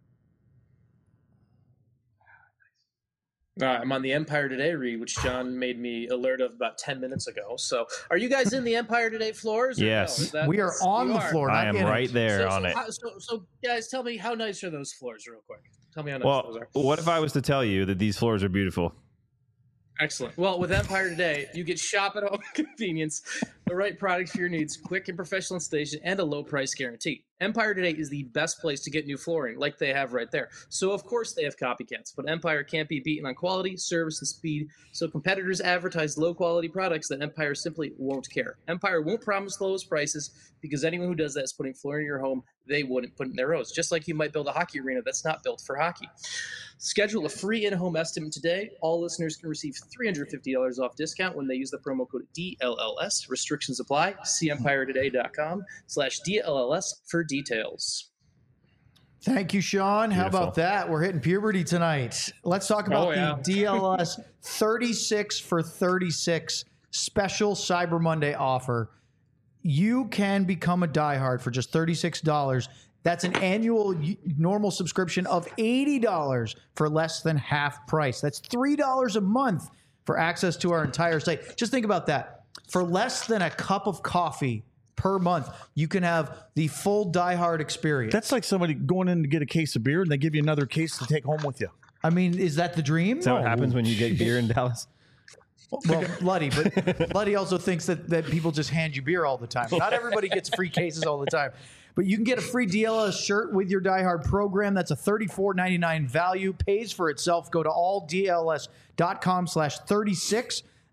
E: Uh, I'm on the Empire Today read, which John made me alert of about ten minutes ago. So, are you guys in the Empire Today floors? or
A: Yes.
E: no? Is that-
D: We are on
E: you
D: the
E: are.
D: floor.
A: I
D: not
A: am
D: in it.
A: right there
E: So,
A: on
E: so,
A: it.
E: how- so, so, guys, tell me how nice are those floors, real quick? Tell me how nice
A: Well,
E: those are.
A: what if I was to tell you that these floors are beautiful?
E: Excellent. Well, with Empire Today, you get shop at home convenience, the right products for your needs, quick and professional installation, and a low price guarantee. Empire Today is the best place to get new flooring, like they have right there. So, of course, they have copycats, but Empire can't be beaten on quality, service, and speed. So, competitors advertise low quality products that Empire simply won't care. Empire won't promise the lowest prices because anyone who does that is putting flooring in your home they wouldn't put in their rows. Just like you might build a hockey arena that's not built for hockey. Schedule a free in-home estimate today. All listeners can receive three hundred fifty dollars off discount when they use the promo code D L L S. Restrictions apply. See empiretoday.com slash DLLS for details.
D: Thank you, Sean. How
A: Beautiful.
D: about that? We're hitting puberty tonight. Let's talk about
E: Oh, yeah.
D: the D L S thirty-six for thirty-six special Cyber Monday offer. You can become a diehard for just thirty-six dollars. That's an annual y- normal subscription of eighty dollars for less than half price. That's three dollars a month for access to our entire site. Just think about that. For less than a cup of coffee per month, you can have the full diehard experience.
C: That's like somebody going in to get a case of beer and they give you another case to take home with you.
D: I mean, is that the dream?
A: Is that what happens when you get beer in Dallas?
D: Well, Luddy, but Luddy also thinks that, that people just hand you beer all the time. Not everybody gets free cases all the time. But you can get a free D L S shirt with your Die Hard program. That's a thirty-four ninety-nine value. Pays for itself. Go to all D L S dot com slash thirty-six.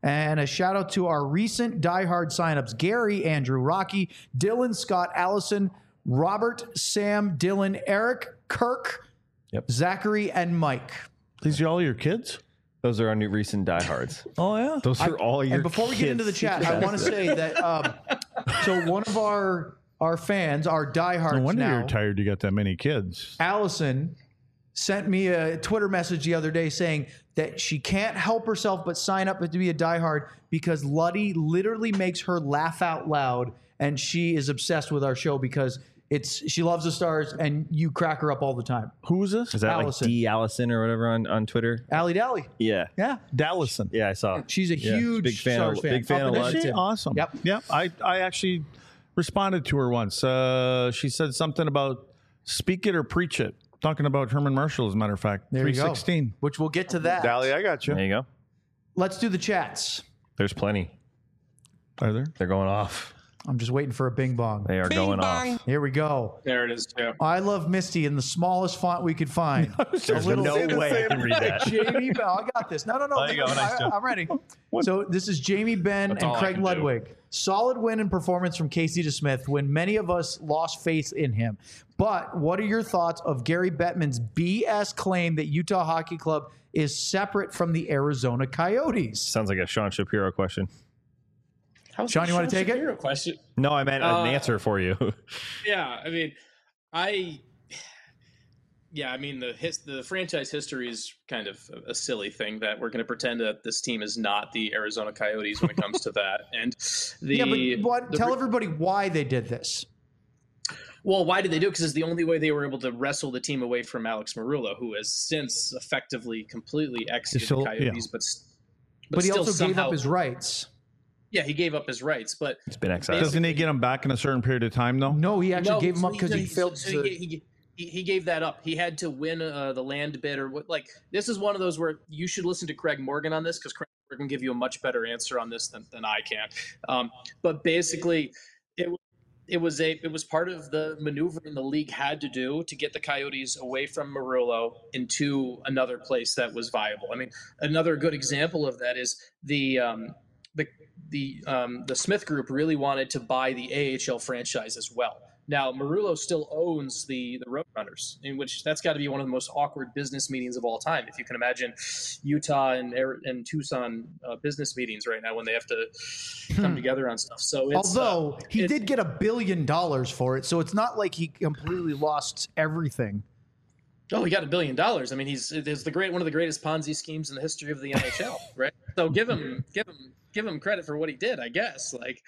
D: And a shout out to our recent diehard signups: Gary, Andrew, Rocky, Dylan, Scott, Allison, Robert, Sam, Dylan, Eric, Kirk,
A: Yep.
D: Zachary, and Mike.
C: These are all your kids?
A: Those are our new recent diehards.
C: Oh, yeah.
A: Those are all your
D: And before we get into the
A: kids.
D: chat, I want to say that um, so one of our our fans, our diehards
C: No wonder
D: now,
C: you're tired you got that many kids.
D: Allison, sent me a Twitter message the other day saying that she can't help herself but sign up to be a diehard because Luddy literally makes her laugh out loud, and she is obsessed with our show because it's she loves the Stars and you crack her up all the time.
C: Who is this?
A: Is that
D: Allison.
A: like D Allison or whatever on, on Twitter?
D: Allie Dally.
A: Yeah.
D: Yeah.
C: Dallison.
A: Yeah, I saw.
D: She's a
A: Yeah,
D: huge
A: big fan
D: Stars
A: of-
D: fan.
A: big fan
D: Up
A: of
D: in
A: Luddy.
C: Is she?
D: Edmonton.
C: Awesome.
D: Yep.
C: Yep. I, I actually responded to her once. Uh, she said something about speak it or preach it. Talking about Herman Marshall, as a matter of fact.
D: There you
C: three
D: go.
C: sixteen.
D: Which we'll get to that.
C: Dally, I got you.
A: There you go.
D: Let's do the chats.
A: There's plenty.
C: Are there?
A: They're going off.
D: I'm just waiting for a bing bong.
A: They are going off.
D: Here we go.
E: There it is. Yeah.
D: I love Misty in the smallest font we could find.
A: There's
D: little-
A: no
D: say the
A: way I can read that.
D: Jamie Ben. I got this. No, no, no.
A: There you go. Nice
D: I,
A: job.
D: I'm ready. So this is Jamie Ben
B: That's
D: and
B: all I
D: Craig
B: can do.
D: Ludwig. Solid win and performance from Casey DeSmith when many of us lost faith in him. But what are your thoughts of Gary Bettman's B S claim that Utah Hockey Club is separate from the Arizona Coyotes?
A: Sounds like a Sean Shapiro question.
E: How's
D: Sean,
E: the
D: you wanna
E: Sean
D: take it?
E: Shapiro question?
A: No, I meant
E: Uh,
A: an answer for you.
E: Yeah, I mean, I, yeah, I mean the his, the franchise history is kind of a, a silly thing that we're going to pretend that this team is not the Arizona Coyotes when it comes to that. And the
D: yeah, but what,
E: the
D: tell
E: re-
D: everybody why they did this.
E: Well, why did they do it? Because it's the only way they were able to wrestle the team away from Alex Marullo, who has since effectively completely exited
C: still-
E: the Coyotes, but s-
D: But, he
E: still
D: also gave
E: somehow-
D: up his rights.
E: Yeah, he gave up his rights, but
A: It's been excised.
C: Doesn't he get them back in a certain period of time, though?
D: No, he actually
E: No,
D: gave him
E: so
D: up because he
E: so-
D: failed
E: so
D: to.
E: He, he, he, he gave that up. He had to win uh, the land bid or what. Like this is one of those where you should listen to Craig Morgan on this because Craig Morgan can give you a much better answer on this than, than I can. Um, but basically, it it was a it was part of the maneuvering the league had to do to get the Coyotes away from Marullo into another place that was viable. I mean, another good example of that is the. Um, the the um, the Smith Group really wanted to buy the A H L franchise as well. Now Marullo still owns the the Roadrunners, in which that's got to be one of the most awkward business meetings of all time. If you can imagine Utah and and Tucson uh, business meetings right now when they have to come together on stuff. So it's,
D: Although
E: uh,
D: he
E: it-
D: did get a billion dollars for it, so it's not like he completely lost everything.
E: oh, he got a billion dollars. I mean, he's it's the great one of the greatest Ponzi schemes in the history of the N H L, right? So give him give him give him credit for what he did, I guess. Like.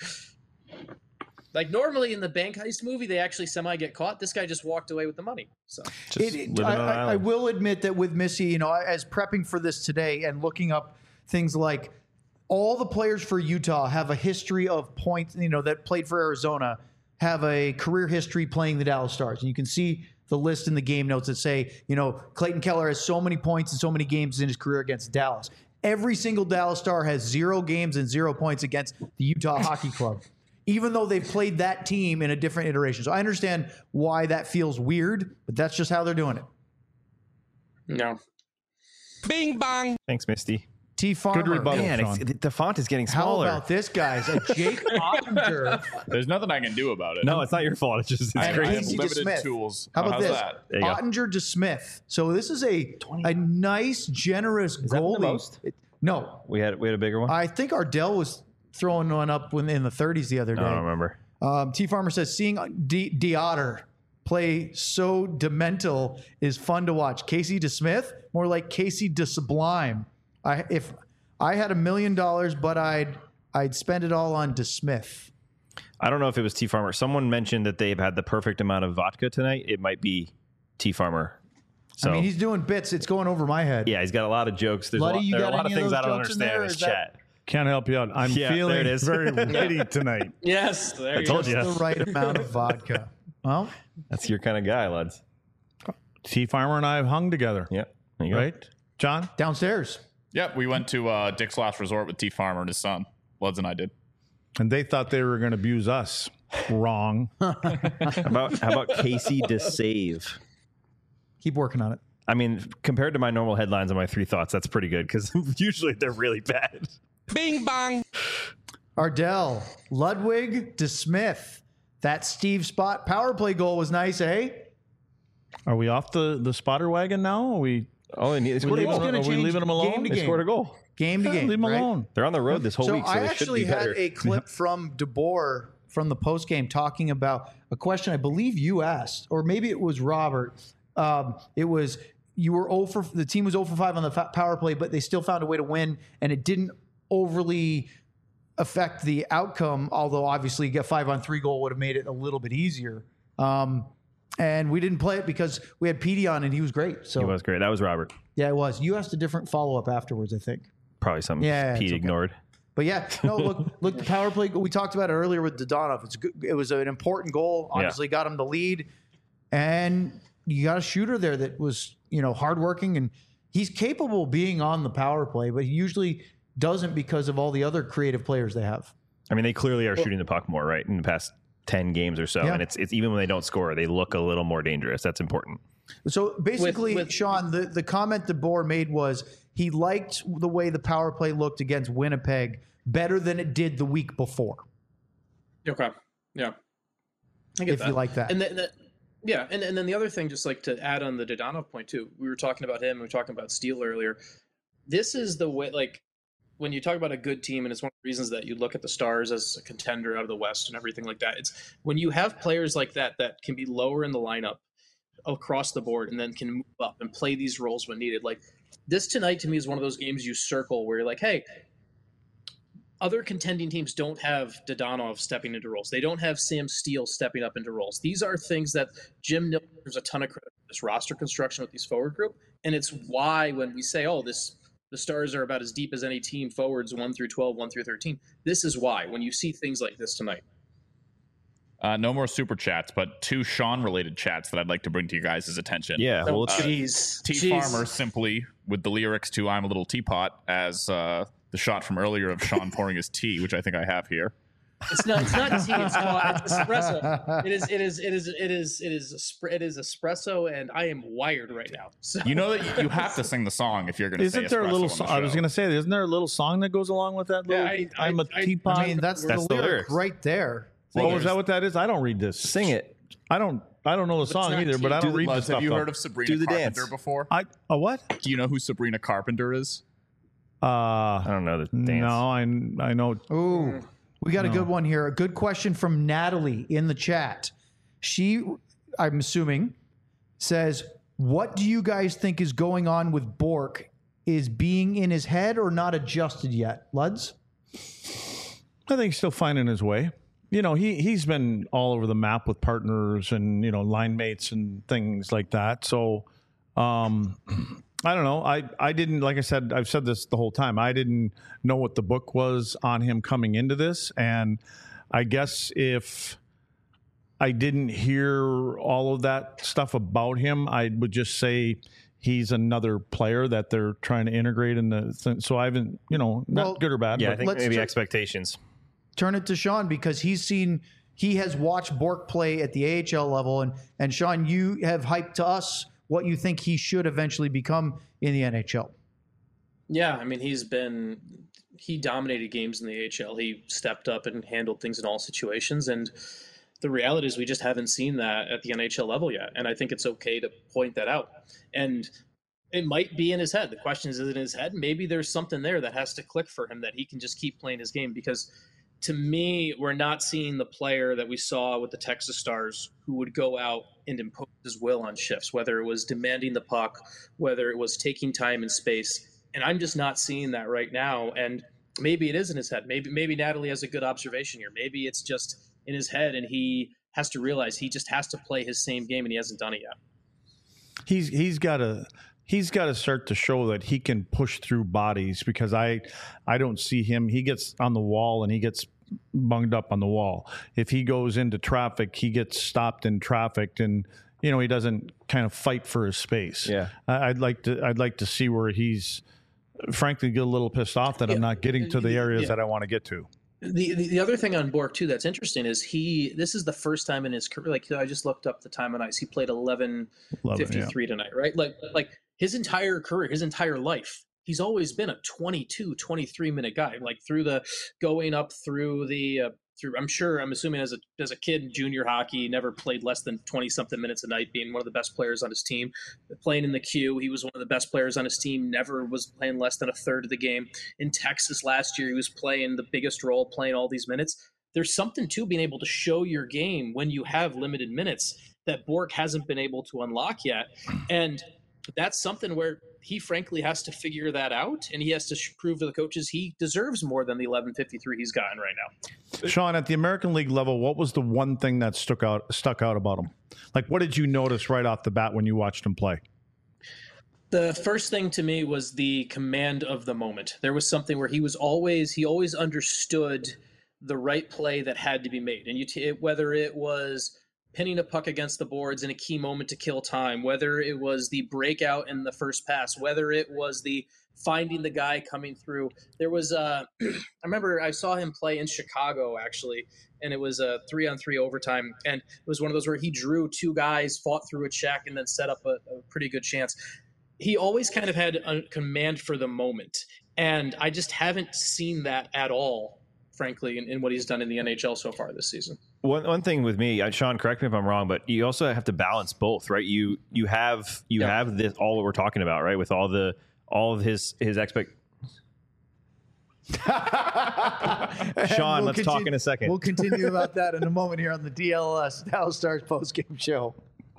E: Like normally in the bank heist movie, they actually semi get caught. This guy just walked away with the money. So
A: Just
D: It- it-
A: living
D: I,
A: on an
D: I- I
A: island.
D: will admit that with Missy, you know, as prepping for this today and looking up things like all the players for Utah have a history of points, you know, that played for Arizona have a career history playing the Dallas Stars. And you can see the list in the game notes that say, you know, Clayton Keller has so many points and so many games in his career against Dallas. Every single Dallas Star has zero games and zero points against the Utah Hockey Club, even though they've played that team in a different iteration. So I understand why that feels weird, but that's just how they're doing it.
E: no,
A: Thanks, Misty.
D: T Farmer.
C: Good rebuttal.
A: Man,
C: Sean.
A: it's, the font is getting
D: How
A: smaller.
D: about this, guys? A Jake Ottinger.
B: There's nothing I can do about it.
A: No, it's not your fault. It's just it's
D: And
B: I
A: crazy.
B: have
D: Casey
B: limited
D: DeSmith.
B: tools.
D: How
B: Oh,
D: about
B: how's
D: this?
B: that?
A: There you go.
D: Ottinger to Smith. So this is a a nice, generous
A: that the
D: goalie.
A: most?
D: It- no,
A: We had we had a bigger one.
D: I think Ardell was throwing one up when, in the thirties the other
A: I don't
D: day.
A: remember.
D: Um, T Farmer says seeing D- Deotter play so demental is fun to watch. Casey DeSmith, more like Casey DeSublime. I if I had a million dollars, but I'd I'd spend it all on DeSmith.
A: I don't know if it was T Farmer. Someone mentioned that they've had the perfect amount of vodka tonight. It might be T Farmer. So
D: I mean, he's doing bits. It's going over my head.
A: yeah, he's got a lot of jokes. There's a
D: Luddy,
A: lot,
D: you
A: there are a
D: got
A: lot of
D: any of
A: things
D: those
A: I don't
D: jokes in
A: understand
D: there,
A: in
D: or
A: this
D: is that-
A: chat.
C: Can't help you out. I'm
A: Yeah, there
C: feeling
A: it is.
C: very witty tonight.
E: yes, there
A: I
E: you
A: told
E: go.
A: you.
D: The right amount of vodka. Well,
A: That's your kind of guy, lads.
C: T Farmer and I have hung together,
A: Yeah. There you go.
C: right? John?
D: downstairs.
B: Yep, we went to uh, Dick's Last Resort with T Farmer and his son. Luds and I did.
C: And they thought they were going to abuse us. Wrong.
A: How about how about Casey to save?
D: Keep working on it.
A: I mean, compared to my normal headlines on my three thoughts, that's pretty good because usually they're really bad.
F: Bing bong.
D: Ardell, Ludwig, DeSmith. That Steve Spot power play goal was nice, eh?
C: Are we off the, the spotter wagon now? Are we,
A: Oh, and they scored a
C: leaving,
A: goal.
D: gonna
C: are we
D: change
C: leaving them alone?
D: game to
C: They
D: game.
C: scored a goal.
D: Game to
C: Yeah,
D: game.
C: leave them
D: right?
C: alone.
A: They're on the road this whole
D: So
A: week, so
D: I
A: they should
D: actually
A: be
D: had
A: better.
D: a clip from DeBoer from the post game talking about a question I believe you asked, or maybe it was Robert. Um, it was you were zero for the team was zero for five on the fa- power play, but they still found a way to win, and it didn't overly affect the outcome. Although obviously, get five on three goal would have made it a little bit easier. Um, and we didn't play it because we had Petey on, and he was great. So
A: He was great. That was Robert.
D: yeah, it was. You asked a different follow up afterwards, I think.
A: Probably something
D: Yeah, it's
A: Pete
D: okay.
A: ignored.
D: But yeah, no, look, look, the power play. We talked about it earlier with Dodonov. It's good. It was an important goal. Obviously, got him the lead, and you got a shooter there that was, you know, hardworking, and he's capable of being on the power play, but he usually doesn't because of all the other creative players they have.
A: I mean, they clearly are shooting the puck more, right, in the past ten games or so.
D: Yeah.
A: And it's it's even when they don't score, they look a little more dangerous. That's important.
D: So basically,
E: with-
D: Sean, the, the comment that Boer made was he liked the way the power play looked against Winnipeg better than it did the week before.
E: Okay. Yeah. I get
D: If
E: that.
D: you like that.
E: And then, yeah, and, and then the other thing, just like to add on the Dodonov point too, we were talking about him, and we were talking about Steele earlier. This is the way, like, when you talk about a good team, and it's one of the reasons that you look at the Stars as a contender out of the West and everything like that. It's when you have players like that that can be lower in the lineup across the board and then can move up and play these roles when needed. Like this tonight to me is one of those games you circle where you're like, hey, other contending teams don't have Dodonov stepping into roles. They don't have Sam Steele stepping up into roles. These are things that Jim Nill deserves a ton of credit for this roster construction with these forward group. And it's why when we say, oh, this the Stars are about as deep as any team forwards one through twelve, one through thirteen. This is why when you see things like this tonight.
B: Uh, no more super chats, but two Sean-related chats that I'd like to bring to you guys' attention.
A: Yeah, well,
E: Oh,
A: let's
E: jeez.
B: T
E: Jeez.
B: Farmer simply with the lyrics to "I'm a Little Teapot" as uh, the shot from earlier of Sean pouring his tea, which I think I have here.
E: It's not. It's not tea. It's, called, it's espresso. It is. It is. It is. It is. It is. Espre- it is espresso, and I am wired right now. So
B: You know that you have to sing the song if you're going to say
C: Isn't there a
B: espresso
C: little
B: on the
C: song? I was
B: show.
C: going to say, isn't there a little song that goes along with that? Little,
E: Yeah, I- I-
C: I'm a
E: I-
C: teapot.
D: I mean, that's,
A: That's
D: the
A: the
D: lyric
A: lyrics.
D: right there.
C: oh, is that what that is? I don't read this.
A: sing it.
C: I don't. I don't know the
E: it's
C: song
E: not
C: either, but I
E: tea.
C: don't
B: Do
C: read
B: the,
C: the
B: Luz,
C: stuff.
B: have you
C: though.
B: heard of Sabrina
A: Do the
B: Carpenter
A: dance.
B: before?
C: I a what?
B: Do you know who Sabrina Carpenter is?
C: Uh,
A: I don't know the dance.
C: no, I I know.
D: Ooh, we got a good one here. A good question from Natalie in the chat. She, I'm assuming, says, "What do you guys think is going on with Bork? Is being in his head or not adjusted yet?" Luds?
C: I think he's still finding his way. You know, he he's been all over the map with partners and you know line mates and things like that. So, um, I don't know. I I didn't like I said. I've said this the whole time. I didn't know what the book was on him coming into this, and I guess if I didn't hear all of that stuff about him, I would just say he's another player that they're trying to integrate in the thing. So I haven't, you know, not
D: Well,
C: good or bad.
A: Yeah, I
C: but
A: think
D: let's
A: maybe
D: ju-
A: expectations.
D: Turn it to Sean because he's seen, he has watched Bork play at the A H L level, and and Sean, you have hyped to us what you think he should eventually become in the N H L.
E: Yeah, I mean, he's been he dominated games in the A H L. He stepped up and handled things in all situations, and the reality is we just haven't seen that at the N H L level yet. And I think it's okay to point that out. And it might be in his head. The question is, is it in his head? Maybe there's something there that has to click for him that he can just keep playing his game. Because to me, we're not seeing the player that we saw with the Texas Stars who would go out and impose his will on shifts, whether it was demanding the puck, whether it was taking time and space. And I'm just not seeing that right now. And maybe it is in his head. Maybe maybe Natalie has a good observation here. Maybe it's just in his head and he has to realize he just has to play his same game and he hasn't done it yet.
C: he's he's got to he's got to start to show that he can push through bodies because I I don't see him. He gets on the wall and he gets bunged up on the wall. If he goes into traffic, he gets stopped in traffic, and you know he doesn't kind of fight for his space.
A: Yeah.
C: I, I'd like to I'd like to see where he's frankly get a little pissed off that I'm not getting to the areas
E: Yeah.
C: that I want to get to.
E: The, the the other thing on Bork too that's interesting is he this is the first time in his career, like I just looked up the time on ice, he played eleven
C: Love it, yeah.
E: fifty-three tonight, right? Like like his entire career, his entire life, he's always been a twenty-two, twenty-three minute guy, like through the going up through the uh, through. I'm sure, I'm assuming as a as a kid in junior hockey, he never played less than twenty something minutes a night, being one of the best players on his team. Playing in the Q, he was one of the best players on his team. Never was playing less than a third of the game. In Texas last year, he was playing the biggest role, playing all these minutes. There's something to being able to show your game when you have limited minutes that Bourque hasn't been able to unlock yet, and that's something where he frankly has to figure that out, and he has to prove to the coaches he deserves more than the eleven fifty-three he's gotten right now.
C: Sean, at the American League level, what was the one thing that stuck out stuck out about him? Like, what did you notice right off the bat when you watched him play?
E: The first thing to me was the command of the moment. There was something where he was always he always understood the right play that had to be made, and you t- whether it was pinning a puck against the boards in a key moment to kill time, whether it was the breakout in the first pass, whether it was the finding the guy coming through. There was uh, I remember I saw him play in Chicago, actually, and it was a three-on-three overtime, and it was one of those where he drew two guys, fought through a check, and then set up a, a pretty good chance. He always kind of had a command for the moment, and I just haven't seen that at all, frankly, in, in what he's done in the N H L so far this season.
A: One one thing with me, uh, Sean, correct me if I'm wrong, but you also have to balance both, right? You you have you
E: Yeah.
A: have this all that we're talking about, right? With all the all of his his expect. Sean,
D: We'll
A: let's talk
D: continue-
A: in a second.
D: We'll continue about that in a moment here on the D L S Dallas Stars postgame show.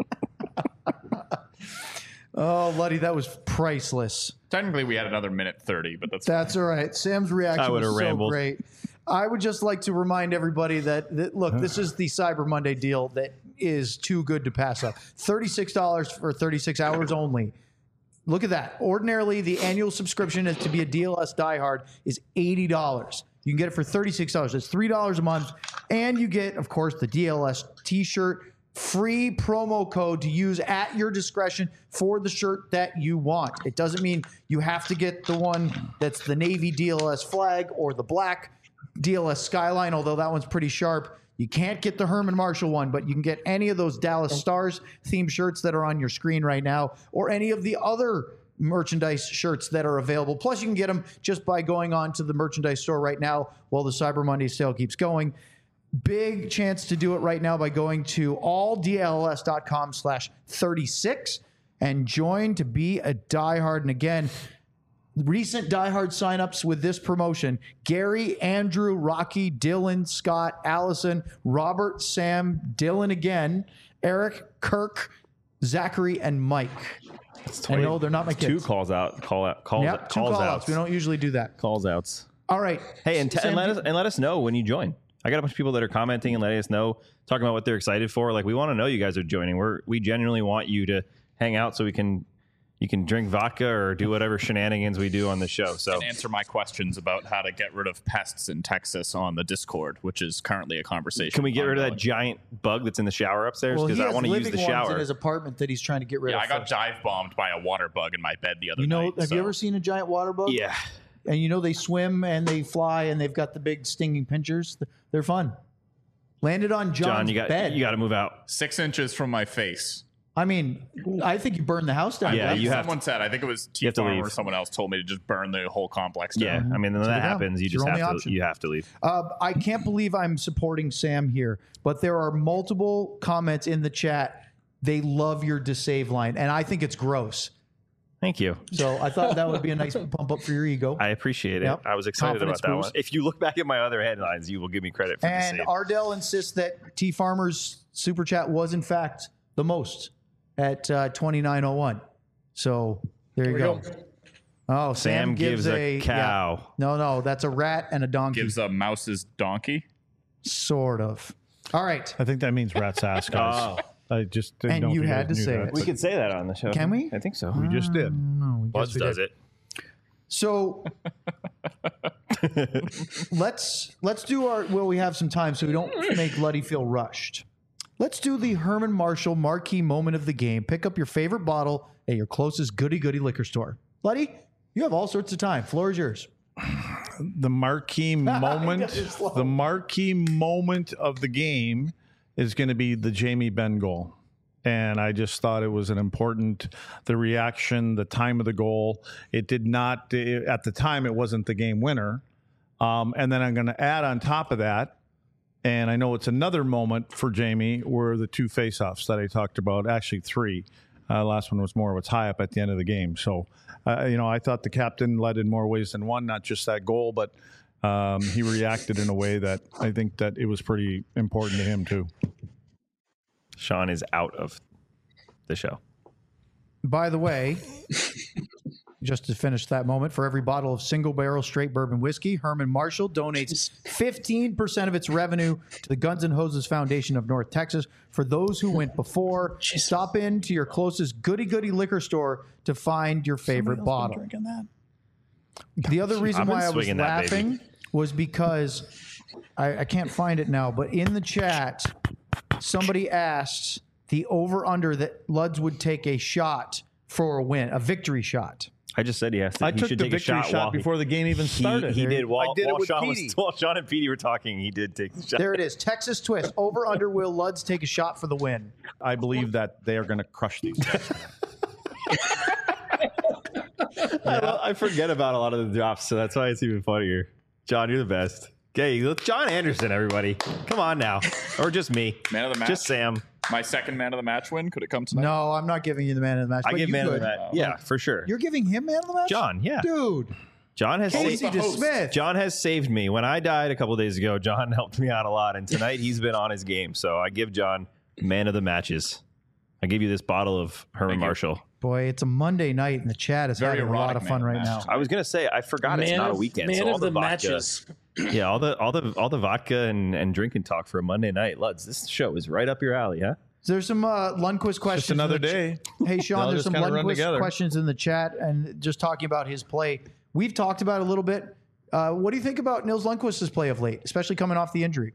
D: Oh, Luddy, that was priceless.
B: Technically, we had another minute thirty, but that's
D: That's all right. Sam's
A: I
D: reaction
A: would've
D: was so
A: rambled.
D: great. I would just like to remind everybody that, that look, this is the Cyber Monday deal that is too good to pass up. thirty-six dollars for thirty-six hours only. Look at that. Ordinarily, the annual subscription is to be a D L S diehard is eighty dollars. You can get it for thirty-six dollars. That's three dollars a month. And you get, of course, the D L S t-shirt, free promo code to use at your discretion for the shirt that you want. It doesn't mean you have to get the one that's the Navy D L S flag or the black D L S Skyline, although that one's pretty sharp. You can't get the Herman Marshall one, but you can get any of those Dallas Stars themed shirts that are on your screen right now, or any of the other merchandise shirts that are available. Plus, you can get them just by going on to the merchandise store right now while the Cyber Monday sale keeps going. Big chance to do it right now by going to alldls.com slash 36 and join to be a diehard. And again, recent diehard signups with this promotion: Gary, Andrew, Rocky, Dylan, Scott, Allison, Robert, Sam, Dylan again, Eric, Kirk, Zachary, and Mike. I know they're not my
A: Two
C: Oh,
D: kids.
A: calls out, call out, calls,
D: Yep, two
A: calls
D: call
A: outs.
D: outs. We don't usually do that.
A: calls outs.
D: All right.
A: Hey, and, t-
D: Sam,
A: and let
D: do-
A: us and let us know when you join. I got a bunch of people that are commenting and letting us know, talking about what they're excited for. Like, we want to know you guys are joining. We're we genuinely want you to hang out so we can you can drink vodka or do whatever shenanigans we do on the show. So
B: and answer my questions about how to get rid of pests in Texas on the Discord, which is currently a conversation.
A: can we get rid of that
B: ongoing.
A: giant bug that's in the shower upstairs?
D: Well,
A: Because
D: he
A: I
D: has
A: want to use
D: living
A: the
D: ones
A: shower.
D: in his apartment that he's trying to get rid
B: Yeah,
D: of.
B: I got
D: first.
B: dive bombed by a water bug in my bed the other
D: You know,
B: night.
D: have
B: so-
D: you ever seen a giant water bug?
A: Yeah.
D: And you know they swim and they fly and they've got the big stinging pinchers. They're fun. Landed on John's
A: John, you got
D: bed.
A: you got to move out.
B: six inches from my face?
D: I mean, I think you burned the house down.
A: Yeah,
D: Right?
A: you have
B: Someone said, I think it was T
A: have to
B: Farm
A: leave.
B: or someone else told me to just burn the whole complex
A: Yeah,
B: down.
A: I mean, when
D: So
A: that
D: you go.
A: happens, you
D: It's
A: just
D: your
A: have
D: only
A: to
D: option.
A: you have to leave.
D: Uh, I can't believe I'm supporting Sam here, but there are multiple comments in the chat. They love your disave line, and I think it's gross.
A: Thank you.
D: So I thought that would be a nice pump up for your ego.
A: I appreciate it.
D: Yep.
A: I was excited
D: Confidence
A: about that
D: boost.
A: one. If you look back at my other headlines, you will give me credit for
D: And
A: the same.
D: Ardell insists that T Farmer's super chat was in fact the most at uh, twenty-nine oh one. So there you
E: we
D: go.
E: go.
D: Oh, Sam,
A: Sam gives a
D: yeah.
A: cow.
D: No, no, that's a rat and a donkey.
B: Gives a mouse's donkey.
D: Sort of. All right.
C: I think that means rat's ass, guys. I just didn't
D: And
C: know if
D: you
C: guys
D: had to
C: knew
D: say
C: that,
D: it.
A: We
C: but
A: could say that on the show.
D: Can we?
A: I think so.
C: we just did.
D: No, we
A: Buzz
D: guess we
A: does
D: did.
A: it.
D: So let's let's do our well. We have some time, so we don't make Luddy feel rushed. Let's do the Herman Marshall marquee moment of the game. Pick up your favorite bottle at your closest goody goody liquor store. Luddy, you have all sorts of time. Floor is yours.
C: The marquee moment,
D: Got it slow.
C: the marquee moment of the game is going to be the Jamie Benn goal. And I just thought it was an important, the reaction, the time of the goal. It did not, it, at the time, it wasn't the game winner. Um, and then I'm going to add on top of that, and I know it's another moment for Jamie, were the two faceoffs that I talked about, actually three. Uh, last one was more of a tie-up at the end of the game. So, uh, you know, I thought the captain led in more ways than one, not just that goal, but um, he reacted in a way that I think that it was pretty important to him too.
A: Sean is out of the show.
D: By the way, just to finish that moment, for every bottle of single barrel straight bourbon whiskey, Herman Marshall donates fifteen percent of its revenue to the Guns and Hoses Foundation of North Texas. For those who went before, stop in to your closest goody goody liquor store to find your favorite bottle.
C: Drinking that.
D: The other reason
A: I've been
D: why I was
A: swinging that,
D: laughing
A: baby.
D: was because I, I can't find it now, but in the chat, somebody asked the over-under that Luds would take a shot for a win, a victory shot.
A: I just said he has to.
C: I
A: he
C: took
A: should
C: the
A: take a
C: victory
A: shot,
C: shot
A: while he-
C: before the game even
A: He,
C: started.
A: he did. While,
C: I did
A: while
C: it with
A: Sean was,
C: Petey.
A: while Sean and Petey were talking, he did take the shot.
D: There it is. Texas twist. Over under will Luds take a shot for the win.
C: I believe that they are going to crush these guys.
A: I, I forget about a lot of the drops, so that's why it's even funnier. John, you're the best. Okay, look, John Anderson, everybody. Come on now. Or just me.
B: Man of the match.
A: Just Sam.
B: My second man of the match win. Could it come tonight?
D: No, I'm not giving you the man of the match.
A: I
D: but
A: give
D: you
A: man of
D: could.
A: the match. Yeah, for sure.
D: You're giving him man of the match?
A: John, yeah.
D: Dude.
A: John has
D: Casey
A: saved,
B: the host.
D: DeSmith.
A: John has saved me. When I died a couple days ago, John helped me out a lot, and tonight he's been on his game. So I give John man of the matches. I give you this bottle of Herman
B: Thank you.
A: Marshall.
D: Boy, it's a Monday night, and the chat is
B: Very
D: having a lot
B: erotic
D: of fun
B: man of
D: right
B: the
D: now.
B: match.
A: I was gonna say I forgot it's
E: Man
A: not a
E: of-
A: weekend.
E: Man
A: so all
E: of
A: the,
E: the
A: vodka,
E: matches.
A: yeah, all the all the all the vodka and, and drinking talk for a Monday night. Luds, this show is right up your alley, huh?
D: There's some uh, Lundqvist questions.
C: Just another
D: in the ch-
C: day.
D: Hey,
C: They
D: Sean,
C: all
D: there's
C: just
D: some
C: kinda run
D: Lundqvist
C: together.
D: questions in the chat, and just talking about his play. We've talked about it a little bit. Uh, what do you think about Nils Lundqvist's play of late, especially coming off the injury?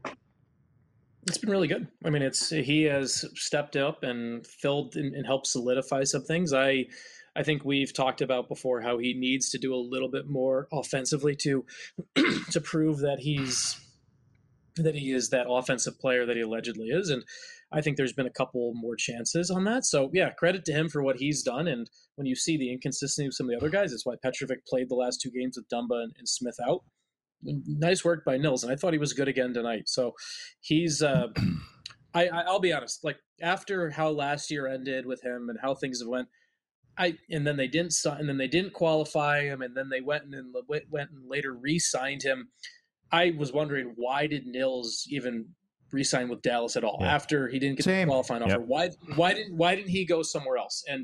E: It's been really good. I mean, it's he has stepped up and filled and, and helped solidify some things. I I think we've talked about before how he needs to do a little bit more offensively to to prove that he's that he is that offensive player that he allegedly is. And I think there's been a couple more chances on that. So yeah, credit to him for what he's done. And when you see the inconsistency of some of the other guys, that's why Petrovic played the last two games with Dumba and, and Smith out. Nice work by Nils, and I thought he was good again tonight. So he's uh I, I I'll be honest, like after how last year ended with him and how things have went, I and then they didn't sign and then they didn't qualify him, and then they went and then went and later re-signed him. I was wondering, why did Nils even re-sign with Dallas at all
A: Yeah.
E: after he didn't get
D: Same.
E: the qualifying offer?
A: Yep.
E: Why why didn't why didn't he go somewhere else? And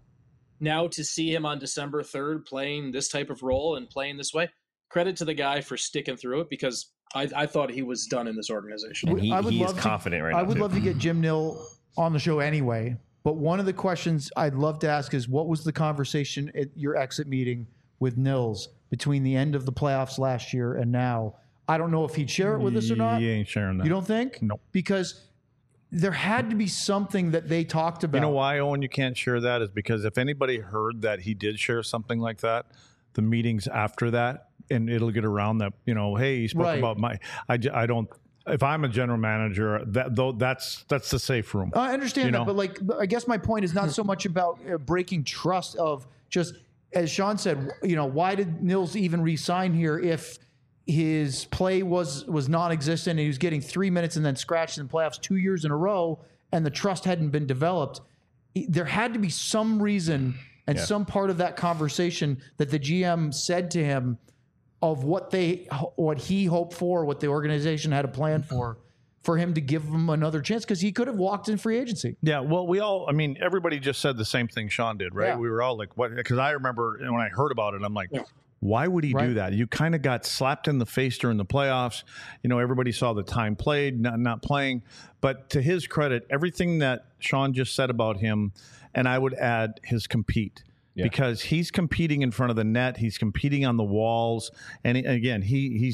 E: now to see him on December third playing this type of role and playing this way, credit to the guy for sticking through it, because I, I thought he was done in this organization.
A: And he,
D: I would
A: he is
D: love to-
A: confident right
D: I
A: now.
D: would
A: too.
D: love to get Jim Nill on the show anyway. But one of the questions I'd love to ask is, what was the conversation at your exit meeting with Nils between the end of the playoffs last year and now? I don't know if he'd share it with us or not.
C: He ain't sharing that.
D: You don't think?
C: Nope.
D: Because there had to be something that they talked about.
C: You know why, Owen, you can't share that is because if anybody heard that he did share something like that, the meetings after that, and it'll get around that, you know, hey, he spoke
D: Right.
C: about my, I, j- I don't, if I'm a general manager, that though that's that's the safe room.
D: I understand
C: You
D: that,
C: know?
D: but like, I guess my point is not so much about uh, breaking trust of just, as Sean said, you know, why did Nils even re-sign here if his play was was non-existent and he was getting three minutes and then scratched in playoffs two years in a row, and the trust hadn't been developed? There had to be some reason and
A: Yeah.
D: some part of that conversation that the G M said to him of what they, what he hoped for, what the organization had a plan for, for him to give him another chance, because he could have walked in free agency.
C: Yeah, well, we all, I mean, everybody just said the same thing Sean did, right?
D: Yeah.
C: We were all like, what? Because I remember when I heard about it, I'm like,
E: Yeah.
C: why would he
D: Right.
C: do that? You kind of got slapped in the face during the playoffs. You know, everybody saw the time played, not, not playing. But to his credit, everything that Sean just said about him, and I would add his compete.
A: Yeah.
C: Because he's competing in front of the net, he's competing on the walls, and he- again, he he's not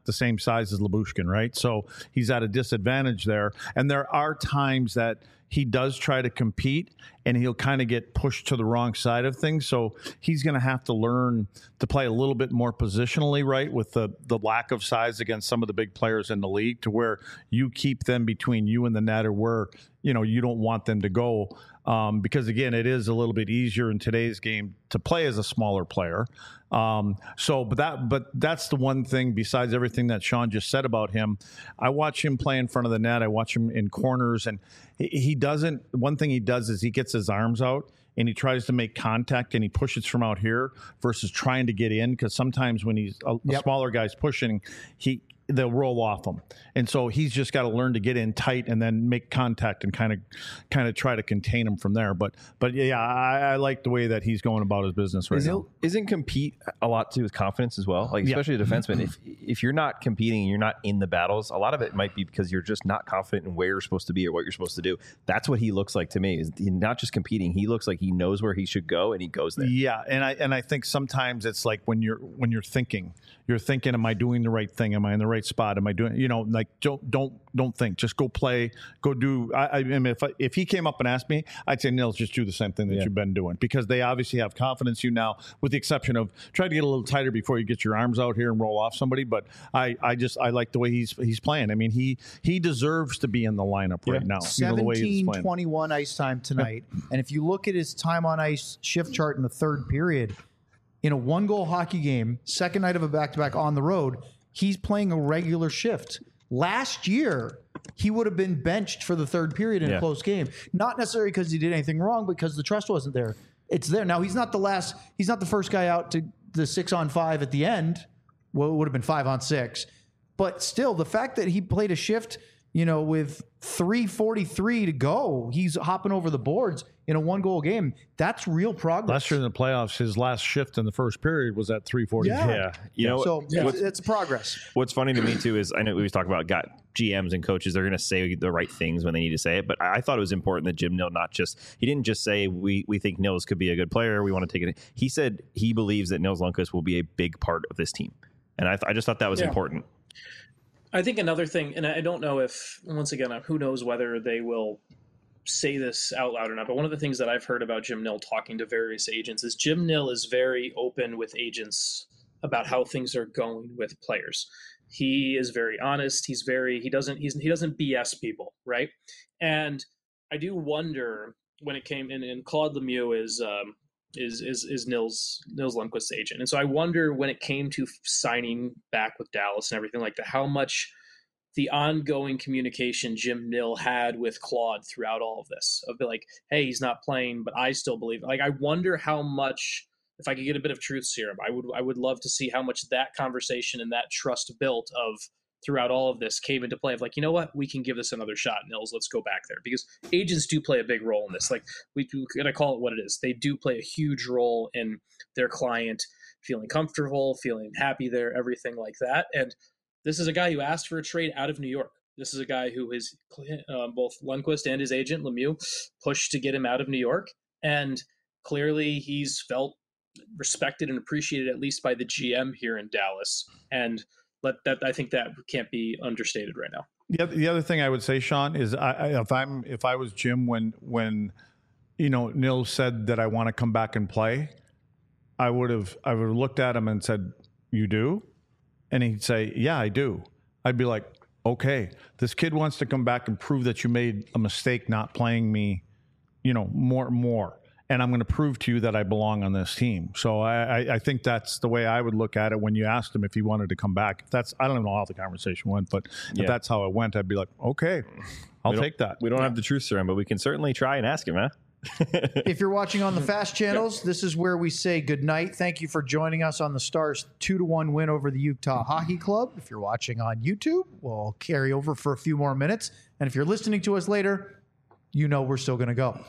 C: the same size as Lyubushkin, right? So he's at a disadvantage there. And there are times that he does try to compete and he'll kind of get pushed to the wrong side of things. So he's going to have to learn to play a little bit more positionally, right, with the, the lack of size against some of the big players in the league, to where you keep them between you and the net, or where, you know, you don't want them to go. Um, because, again, it is a little bit easier in today's game to play as a smaller player. Um, so, but that, but that's the one thing, besides everything that Sean just said about him. I watch him play in front of the net. I watch him in corners, and he, he doesn't, one thing he does is he gets his arms out and he tries to make contact and he pushes from out here versus trying to get in. Because sometimes when he's a,
D: Yep.
C: a smaller guy's pushing, he, they'll roll off him. And so he's just got to learn to get in tight and then make contact and kind of kind of try to contain him from there. But but yeah, I, I like the way that he's going about his business right
A: Isn't,
C: now.
A: isn't compete a lot to do with confidence as well? Like,
C: Yeah.
A: especially a defenseman. If if you're not competing and you're not in the battles, a lot of it might be because you're just not confident in where you're supposed to be or what you're supposed to do. That's what he looks like to me. Is he not just competing. He looks like he knows where he should go and he goes there.
C: Yeah, and I and I think sometimes it's like when you're when you're thinking, you're thinking, am I doing the right thing? Am I in the right spot? Am I doing, you know, like don't don't don't think, just go play, go do. I, I mean, if I, if he came up and asked me, I'd say, Nils, just do the same thing that
A: Yeah.
C: you've been doing, because they obviously have confidence in you now, with the exception of try to get a little tighter before you get your arms out here and roll off somebody. But I I just I like the way he's he's playing. I mean, he he deserves to be in the lineup right now. You know, the way he's
D: seventeen
C: playing.
D: twenty-one ice time tonight. And if you look at his time on ice shift chart in the third period, in a one goal hockey game, second night of a back to back on the road, he's playing a regular shift. Last year, he would have been benched for the third period in
A: Yeah.
D: a close game. Not necessarily because he did anything wrong, because the trust wasn't there. It's there. Now, he's not the last, he's not the first guy out to the six on five at the end. Well, it would have been five on six. But still, the fact that he played a shift, you know, with three forty-three to go, he's hopping over the boards in a one goal game. That's real progress.
C: Last year in the playoffs, his last shift in the first period was at three forty.
D: Yeah.
A: Yeah, you know.
D: So
E: Yeah.
D: it's, it's progress.
A: What's funny to me too is I know we always talk about got G Ms and coaches. They're going to say the right things when they need to say it. But I thought it was important that Jim Nill not just he didn't just say we we think Nils could be a good player. We want to take it. He said he believes that Nils Lundkvist will be a big part of this team, and I th- I just thought that was
E: Yeah.
A: important.
E: I think another thing, and I don't know if, once again, who knows whether they will say this out loud or not, but one of the things that I've heard about Jim Nill talking to various agents is Jim Nill is very open with agents about how things are going with players. He is very honest. He's very, he doesn't, he's, he doesn't B S people, right? And I do wonder when it came in, and Claude Lemieux is, um, is is is Nils Nils Lundkvist's agent, and so I wonder when it came to signing back with Dallas and everything like that, how much the ongoing communication Jim Nill had with Claude throughout all of this, of be like, hey, he's not playing, but I still believe. Like, I wonder how much, if I could get a bit of truth serum, I would I would love to see how much that conversation and that trust built of throughout all of this came into play of like, you know what, we can give this another shot, Nils, let's go back there, because agents do play a big role in this. Like, we do, gotta call it what it is. They do play a huge role in their client feeling comfortable, feeling happy there, everything like that. And this is a guy who asked for a trade out of New York. This is a guy who is um, both Lundqvist and his agent Lemieux pushed to get him out of New York, and clearly he's felt respected and appreciated, at least by the G M here in Dallas. And let that, I think that can't be understated right now.
C: The other, the other thing I would say, Sean, is I, I, if I'm if I was Jim when when you know Nils said that I want to come back and play, I would have I would have looked at him and said, "You do?" And he'd say, "Yeah, I do." I'd be like, "Okay, this kid wants to come back and prove that you made a mistake not playing me, you know, more and more." And I'm going to prove to you that I belong on this team. So I, I, I think that's the way I would look at it when you asked him if he wanted to come back. If that's I don't even know how the conversation went, but
A: Yeah.
C: if that's how it went, I'd be like, okay, I'll
A: We don't-
C: take that.
A: We don't have the truth serum, but we can certainly try and ask him, huh?
D: If you're watching on the fast channels, this is where we say good night. Thank you for joining us on the Stars two to one win over the Utah Hockey Club. If you're watching on YouTube, we'll carry over for a few more minutes. And if you're listening to us later, you know we're still going to go.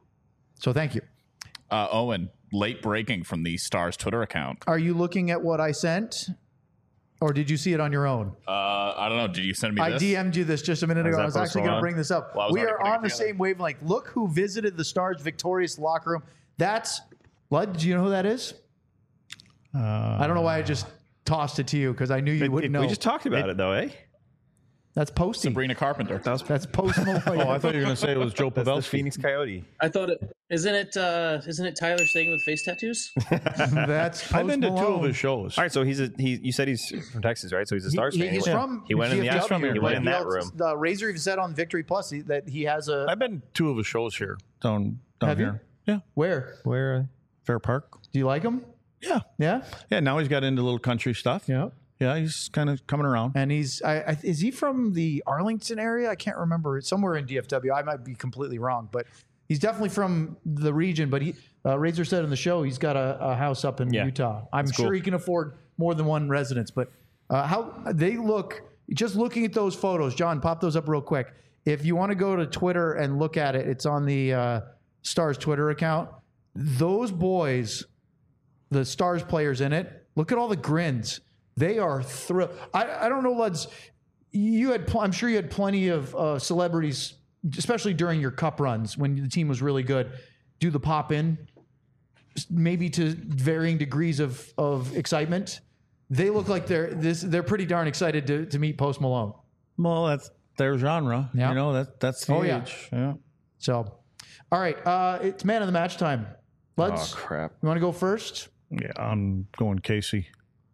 D: So thank you.
B: Uh, Owen, late breaking from the Stars Twitter account.
D: Are you looking at what I sent? Or did you see it on your own?
B: Uh, I don't know. Did you send me
D: I
B: this?
D: D M'd you this just a minute
A: Is
D: ago.
A: that
D: I was actually
A: posted
D: going to
A: on?
D: bring this up.
B: Well, I was
D: we
B: already
D: are
B: putting
D: on the
B: it together.
D: same wavelength. Look who visited the Stars' victorious locker room. That's, Lud, do you know who that is?
C: Uh,
D: I don't know why I just tossed it to you because I knew you
C: It-
D: wouldn't
C: it-
D: know.
A: We just talked about it, though, eh?
D: That's Posty.
B: Sabrina Carpenter.
A: That was
D: That's Post Malone.
C: Oh, I thought you were going to say it was Joe
A: that's the
C: Pavelski.
A: Phoenix Coyote.
E: I thought it isn't it uh, isn't it Tyler Sagan with face tattoos?
D: That's Post
C: I've been to two
D: Malone.
C: of his shows.
A: All right, so he's a he. You said he's from Texas, right? So he's a Stars
D: He-
A: fan.
D: he's
A: he went,
D: from
A: he went in the
D: G F W,
A: he went in
D: but
A: that
D: he
A: room.
D: also- The Razor even said on Victory Plus he- that he has a.
C: I've been to two of his shows here down down
D: Have you?
C: here. Yeah,
D: Where?
A: Where?
C: Fair Park.
D: Do you like him?
C: Yeah,
D: Yeah.
C: yeah. Now he's got into little country stuff.
D: Yeah.
C: Yeah, he's kind of coming around.
D: And he's, I, I, is he from the Arlington area? I can't remember. Somewhere in D F W. I might be completely wrong, but he's definitely from the region. But he, uh, Razor said in the show, he's got a, a house up in
A: Yeah.
D: Utah. I'm sure
A: cool.
D: he can afford more than one residence. But uh, how they look, just looking at those photos, John, pop those up real quick. If you want to go to Twitter and look at it, it's on the uh, Stars Twitter account. Those boys, the Stars players in it, look at all the grins. They are thrilled. I, I don't know, Luds. You had, pl- I'm sure you had plenty of uh, celebrities, especially during your cup runs when the team was really good, do the pop in, maybe to varying degrees of of excitement. They look like they're this. They're pretty darn excited to to meet Post Malone.
C: Well, that's their genre.
D: Yeah.
C: You know that that's the
D: Oh, yeah.
C: age. Yeah.
D: So, all right, uh, it's man of the match time. Luds,
A: Oh crap!
D: you want to go first?
C: Yeah, I'm going Casey.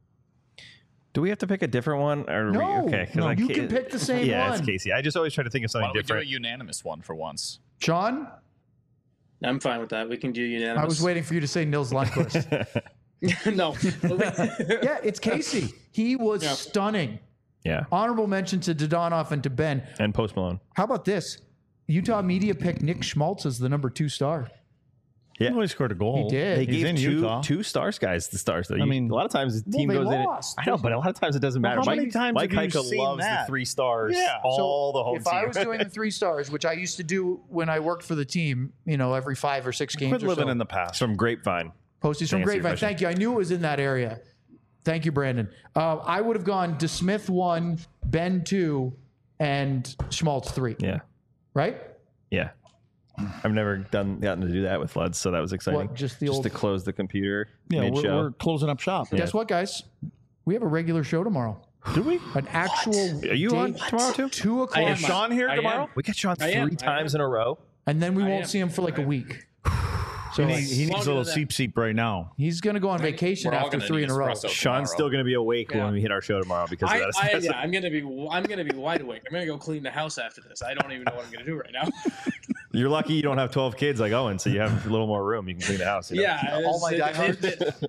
A: Do we have to pick a different one? Or
D: No,
A: we, okay, 'cause
D: no,
A: I
D: you
A: can't-
D: can pick the same
A: yeah,
D: one.
A: it's Casey. I just always try to think of
B: Why
A: something
B: don't we do a
A: different.
B: unanimous one for once?
D: Sean,
E: I'm fine with that. We can do unanimous.
D: I was waiting for you to say Nils Lundqvist.
E: no.
D: Yeah, it's Casey. He was
E: Yeah.
D: stunning.
A: Yeah,
D: Honorable mention to Dodonov and to Ben.
A: and Post Malone.
D: How about this? Utah media picked Nick Schmaltz as the number two star.
A: Yeah.
C: He only scored a goal.
D: He did.
A: They
C: He's
A: gave
C: in
A: two
C: Utah.
A: two Stars guys the Stars. Though. You-
C: mean-
A: a lot of times the
D: Well,
A: team
D: they
A: goes
D: lost.
A: in. I know, but a lot of times it doesn't matter.
C: how
A: Mike,
C: many times
A: Mike
C: have you
A: Heika
C: seen
A: loves
C: that?
A: the three stars.
C: Yeah.
A: all
D: So
A: the home
D: if I
A: team.
D: was doing the three stars, which I used to do when I worked for the team, you know, every five or six games
C: Quit
D: or
C: living
D: so.
C: in the past.
A: from Grapevine.
D: Posties from
A: To answer your
D: Grapevine.
A: question.
D: Thank you. I knew it was in that area. Thank you, Brandon. Uh, I would have gone DeSmith one, Ben two, and Schmaltz three.
A: Yeah,
D: Right?
A: yeah. I've never done gotten to do that with Luds, so that was exciting.
D: What, just the
A: just
D: old-
A: to close the computer
C: Yeah,
A: mid
C: we're,
A: show.
C: we're closing up shop.
D: Guess what, guys? We have a regular show tomorrow.
C: Do we?
D: An actual.
A: Are you
D: date,
A: on tomorrow too?
D: Two
E: I
D: o'clock.
E: am.
C: Is Sean here
E: I
C: tomorrow?
E: am.
A: We got you on
E: I
A: three
E: am, I
A: times in a row.
D: And then we
E: I
D: won't
E: am.
D: see him for like a week. So
C: He needs, he needs a
E: Longer
C: little
E: than
C: seep seep right now.
D: he's going to go on vacation
B: We're all
D: after
B: gonna
D: three
B: need
D: in a row.
B: espresso
A: Sean's
B: tomorrow.
A: still going to be awake
E: Yeah.
A: when we hit our show tomorrow because
E: I,
A: of that.
E: I,
A: espresso.
E: yeah, I'm gonna be I'm gonna be wide awake. I'm gonna go clean the house after this. I don't even know what I'm gonna do right now.
A: You're lucky you don't have twelve kids like Owen, so you have a little more room. You can clean the house. You know?
E: Yeah,
D: All my
E: it's- it-
D: diehards.
E: it-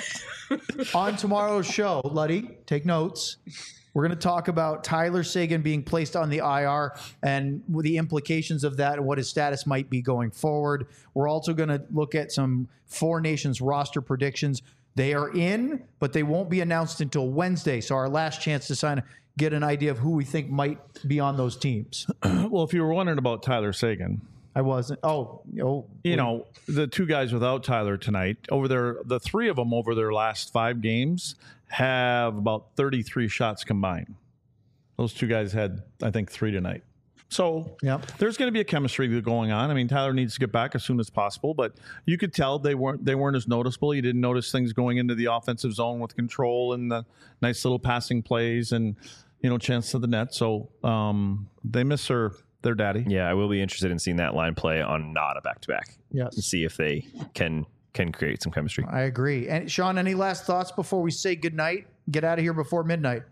D: On tomorrow's show, Luddy, take notes. We're going to talk about Tyler Sagan being placed on the I R and the implications of that and what his status might be going forward. We're also going to look at some Four Nations roster predictions. They are in, but they won't be announced until Wednesday. So our last chance to sign, get an idea of who we think might be on those teams.
C: Well, if you were wondering about Tyler Sagan,
D: I wasn't. Oh, oh,
C: you know, the two guys without Tyler tonight, over their, the three of them over their last five games have about thirty-three shots combined. Those two guys had, I think, three tonight. So
D: Yep.
C: there's going to be a chemistry going on. I mean, Tyler needs to get back as soon as possible, but you could tell they weren't they weren't as noticeable. You didn't notice things going into the offensive zone with control and the nice little passing plays and, you know, chance to the net. So um, they miss their their daddy.
A: Yeah, I will be interested in seeing that line play on not a back to back.
D: Yes.
A: And see if they can can create some chemistry.
D: I agree. And Sean, any last thoughts before we say goodnight? Get out of here before midnight.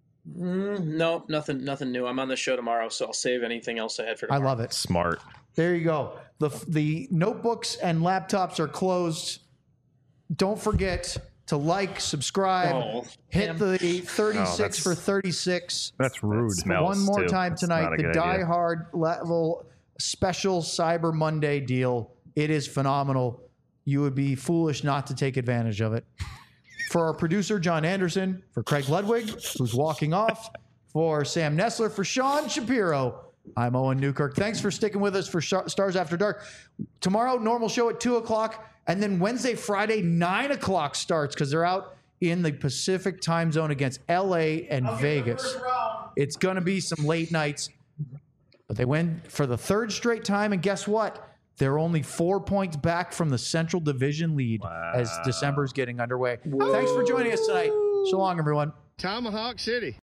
E: Mm, no, nothing, nothing new. I'm on the show tomorrow, so I'll save anything else I had for
D: I
E: tomorrow.
D: love it.
A: Smart.
D: There you go. The the notebooks and laptops are closed. Don't forget to like, subscribe,
E: Oh,
D: hit
E: damn.
D: the thirty-six
A: Oh, that's-
D: for thirty-six.
C: That's rude.
A: Smells,
D: One more
A: too.
D: time
A: That's
D: tonight.
A: not a
D: The
A: good
D: Die
A: idea.
D: Hard level special Cyber Monday deal. It is phenomenal. You would be foolish not to take advantage of it. For our producer, John Anderson, for Craig Ludwig, who's walking off, for Sam Nessler, for Sean Shapiro, I'm Owen Newkirk. Thanks for sticking with us for Sh- Stars After Dark. Tomorrow, normal show at two o'clock. And then Wednesday, Friday, nine o'clock starts because they're out in the Pacific time zone against L A and Vegas. It's going to be some late nights. But they win for the third straight time. And guess what? They're only four points back from the Central Division lead as December's getting underway. Thanks for joining us tonight. So long, everyone.
G: Tomahawk City.